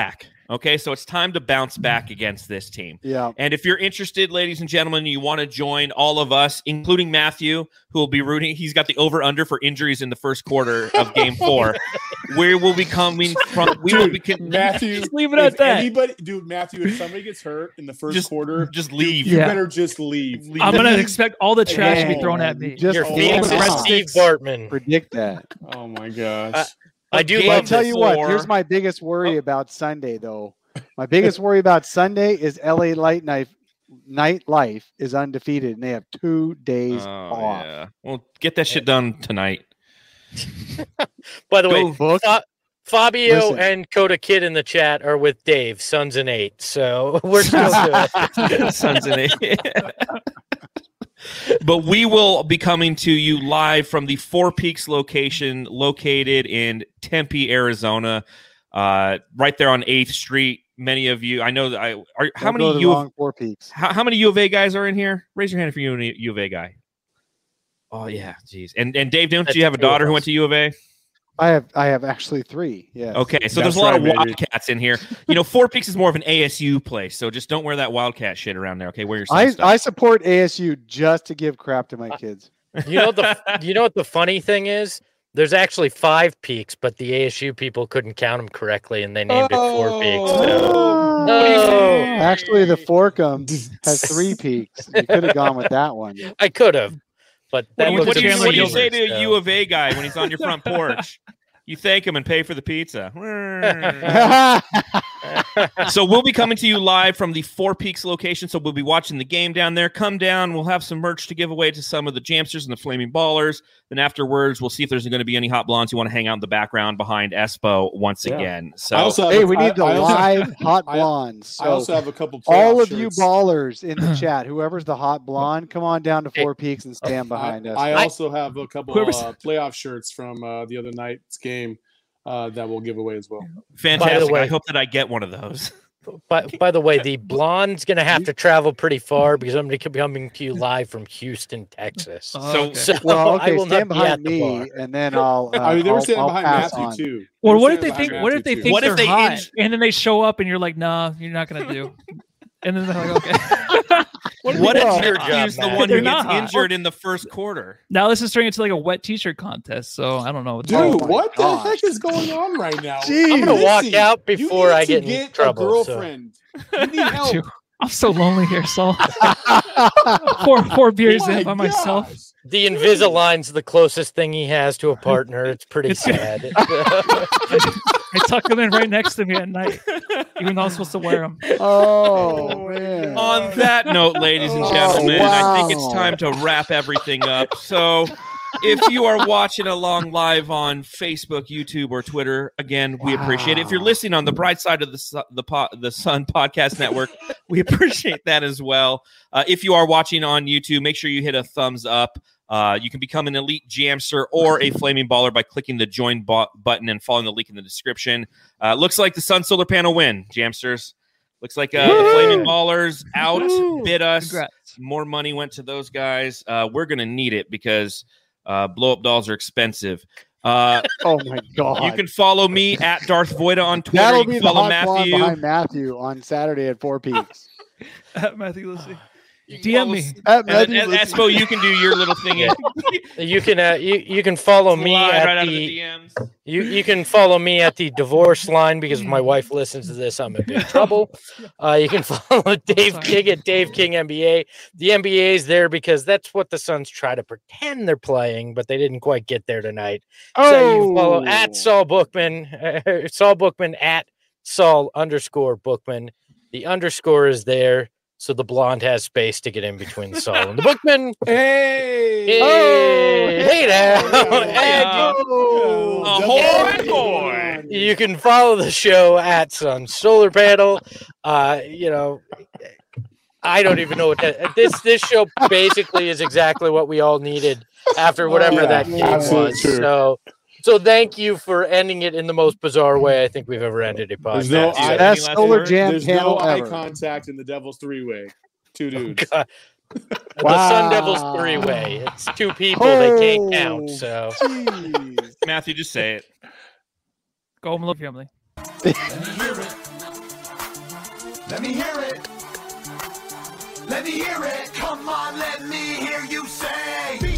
Okay, so it's time to bounce back against this team. Yeah. And if you're interested, ladies and gentlemen, you want to join all of us, including Matthew, who will be rooting. He's got the over-under for injuries in the first quarter of Game Four. We will be coming from. We Dude, will be con- Matthew. Just leave it if at that. Anybody, dude, Matthew. If somebody gets hurt in the first Just- quarter, just leave. You Yeah. better just leave. leave. I'm gonna expect all the trash to be Hey, thrown at me. Just Your Oh, Phoenix my is God. Steve Bartman. predict that. Oh my gosh. I do Game Well, I'll love tell this. you what. four. Here's my biggest worry about Sunday, though. My biggest worry about Sunday is L A Light Night Nightlife is undefeated, and they have two days Oh, off. yeah. Well, get that shit done tonight. By the Go way, book. Fa- Fabio Listen. and Coda Kid in the chat are with Dave, Sons and Eight. So we're still good. Sons and eight. But we will be coming to you live from the Four Peaks location located in Tempe, Arizona, uh, right there on eighth Street. Many of you, I know that I are how Don't go many to the U wrong of, Four Peaks? how, how many U of A guys are in here? Raise your hand if you're a U of A guy. Oh yeah, geez. And and Dave, don't That's you have a two of daughter who us. went to U of A? I have I have actually three. Yeah. Okay, so there's That's a lot right, of baby. Wildcats in here. You know, Four Peaks is more of an A S U place, so just don't wear that Wildcat shit around there. Okay, wear your I, Sun stuff. I support A S U just to give crap to my kids. You know the you know what the funny thing is? There's actually five peaks, but the A S U people couldn't count them correctly, and they named it Four Peaks. So. Oh, Oh. actually, the Forkum has three peaks. You could have gone with that one. I could have, but that What, do you- looks what do you, Chandler what do you absurd, say to a so. U of A guy when he's on your front porch? You thank him and pay for the pizza. So we'll be coming to you live from the Four Peaks location. So we'll be watching the game down there. Come down. We'll have some merch to give away to some of the Jamsters and the Flaming Ballers. Then afterwards, we'll see if there's going to be any hot blondes who want to hang out in the background behind Espo once Yeah. again. I So also have Hey, a- we I- need the I also- live hot I- blondes. I So also have a couple. all playoff of you shirts. ballers in the chat, whoever's the hot blonde, come on down to Four Peaks and stand behind I, us. I also have a couple Whoever's- uh, playoff shirts from uh, the other night's game uh, that we'll give away as well. fantastic. way- I hope that I get one of those. By, by the way, the blonde's going to have to travel pretty far because I'm going to be coming to you live from Houston, Texas. Oh, So- okay. So well, I okay, will stand not be at behind the me, bar. and then I'll. Uh, I mean, they were I'll- standing I'll behind pass Matthew on. too. Well, They were what if they standing think? behind What if Matthew, they too. think What if they're they hot, inj- and then they show up, and you're like, "Nah, you're not gonna do." And then they're like, "Okay." What, What if is your Matthew's job, the Matt? one who They're gets not hot. injured in the first quarter? Now this is turning into like a wet T-shirt contest. So I don't know. What's Dude, Oh my what gosh. the heck is going on right now? Jeez. I'm going to walk Missy, out you before need I to get in get trouble. a so. girlfriend. You need help. Dude, I'm so lonely here, Saul. four four beers Oh my in by myself. gosh. The Invisalign's the closest thing he has to a partner. It's pretty It's- sad. I tuck them in right next to me at night, even though I'm supposed to wear them. Oh man! On that note, ladies and Oh, gentlemen, I think it's wow. time to wrap everything up. So, if you are watching along live on Facebook, YouTube, or Twitter, again, we appreciate it. If you're Wow. listening on the Bright Side of the Su- the po- the Sun Podcast Network, we appreciate that as well. Uh, if you are watching on YouTube, make sure you hit a thumbs up. Uh, you can become an elite Jamster or a Flaming Baller by clicking the join bo- button and following the link in the description. Uh, looks like the Sun Solar Panel win, Jamsters. Looks like uh, the Flaming Ballers outbid us. Congrats. More money went to those guys. Uh, we're going to need it because uh, blow-up dolls are expensive. Uh, Oh my god! you can follow me at Darth Voida on Twitter. That'll You be can the follow hot blonde Matthew. behind Matthew on Saturday at Four Peaks. Matthew, let's see. You can D M follow me. S- At And, Matthew, and, listen- Espo, you can do your little thing. in- you can uh, you you can follow me Slide at right out of the, the D Ms. you you can follow me at the divorce line because if my wife listens to this, I'm in big trouble. Uh, you can follow Dave King at Dave King N B A. The N B A is there because that's what the Suns try to pretend they're playing, but they didn't quite get there tonight. So you can follow at Oh. Saul Bookman, uh, Saul Bookman at Saul underscore Bookman. The underscore is there, so the blonde has space to get in between the Saul and the Bookman. Hey. Hey, Oh, hey now. Hey, And Oh, Ahoy, double- boy. you can follow the show at Sun Solar Panel. Uh, you know, I don't even know what that, this this show basically is exactly what we all needed after whatever Yeah, that game absolutely was. true. So, so thank you for ending it in the most bizarre way I think we've ever ended a There's no podcast. eye- eye, Best last solar words? jam there's panel no eye ever. contact in the Devil's three way. Two dudes. God. The Wow. Sun Devils three way. It's two people. They can't count. Oh, So. Jeez. Matthew, just say it. Go home, love family. Let me hear it. Let me hear it. Come on, let me hear you say.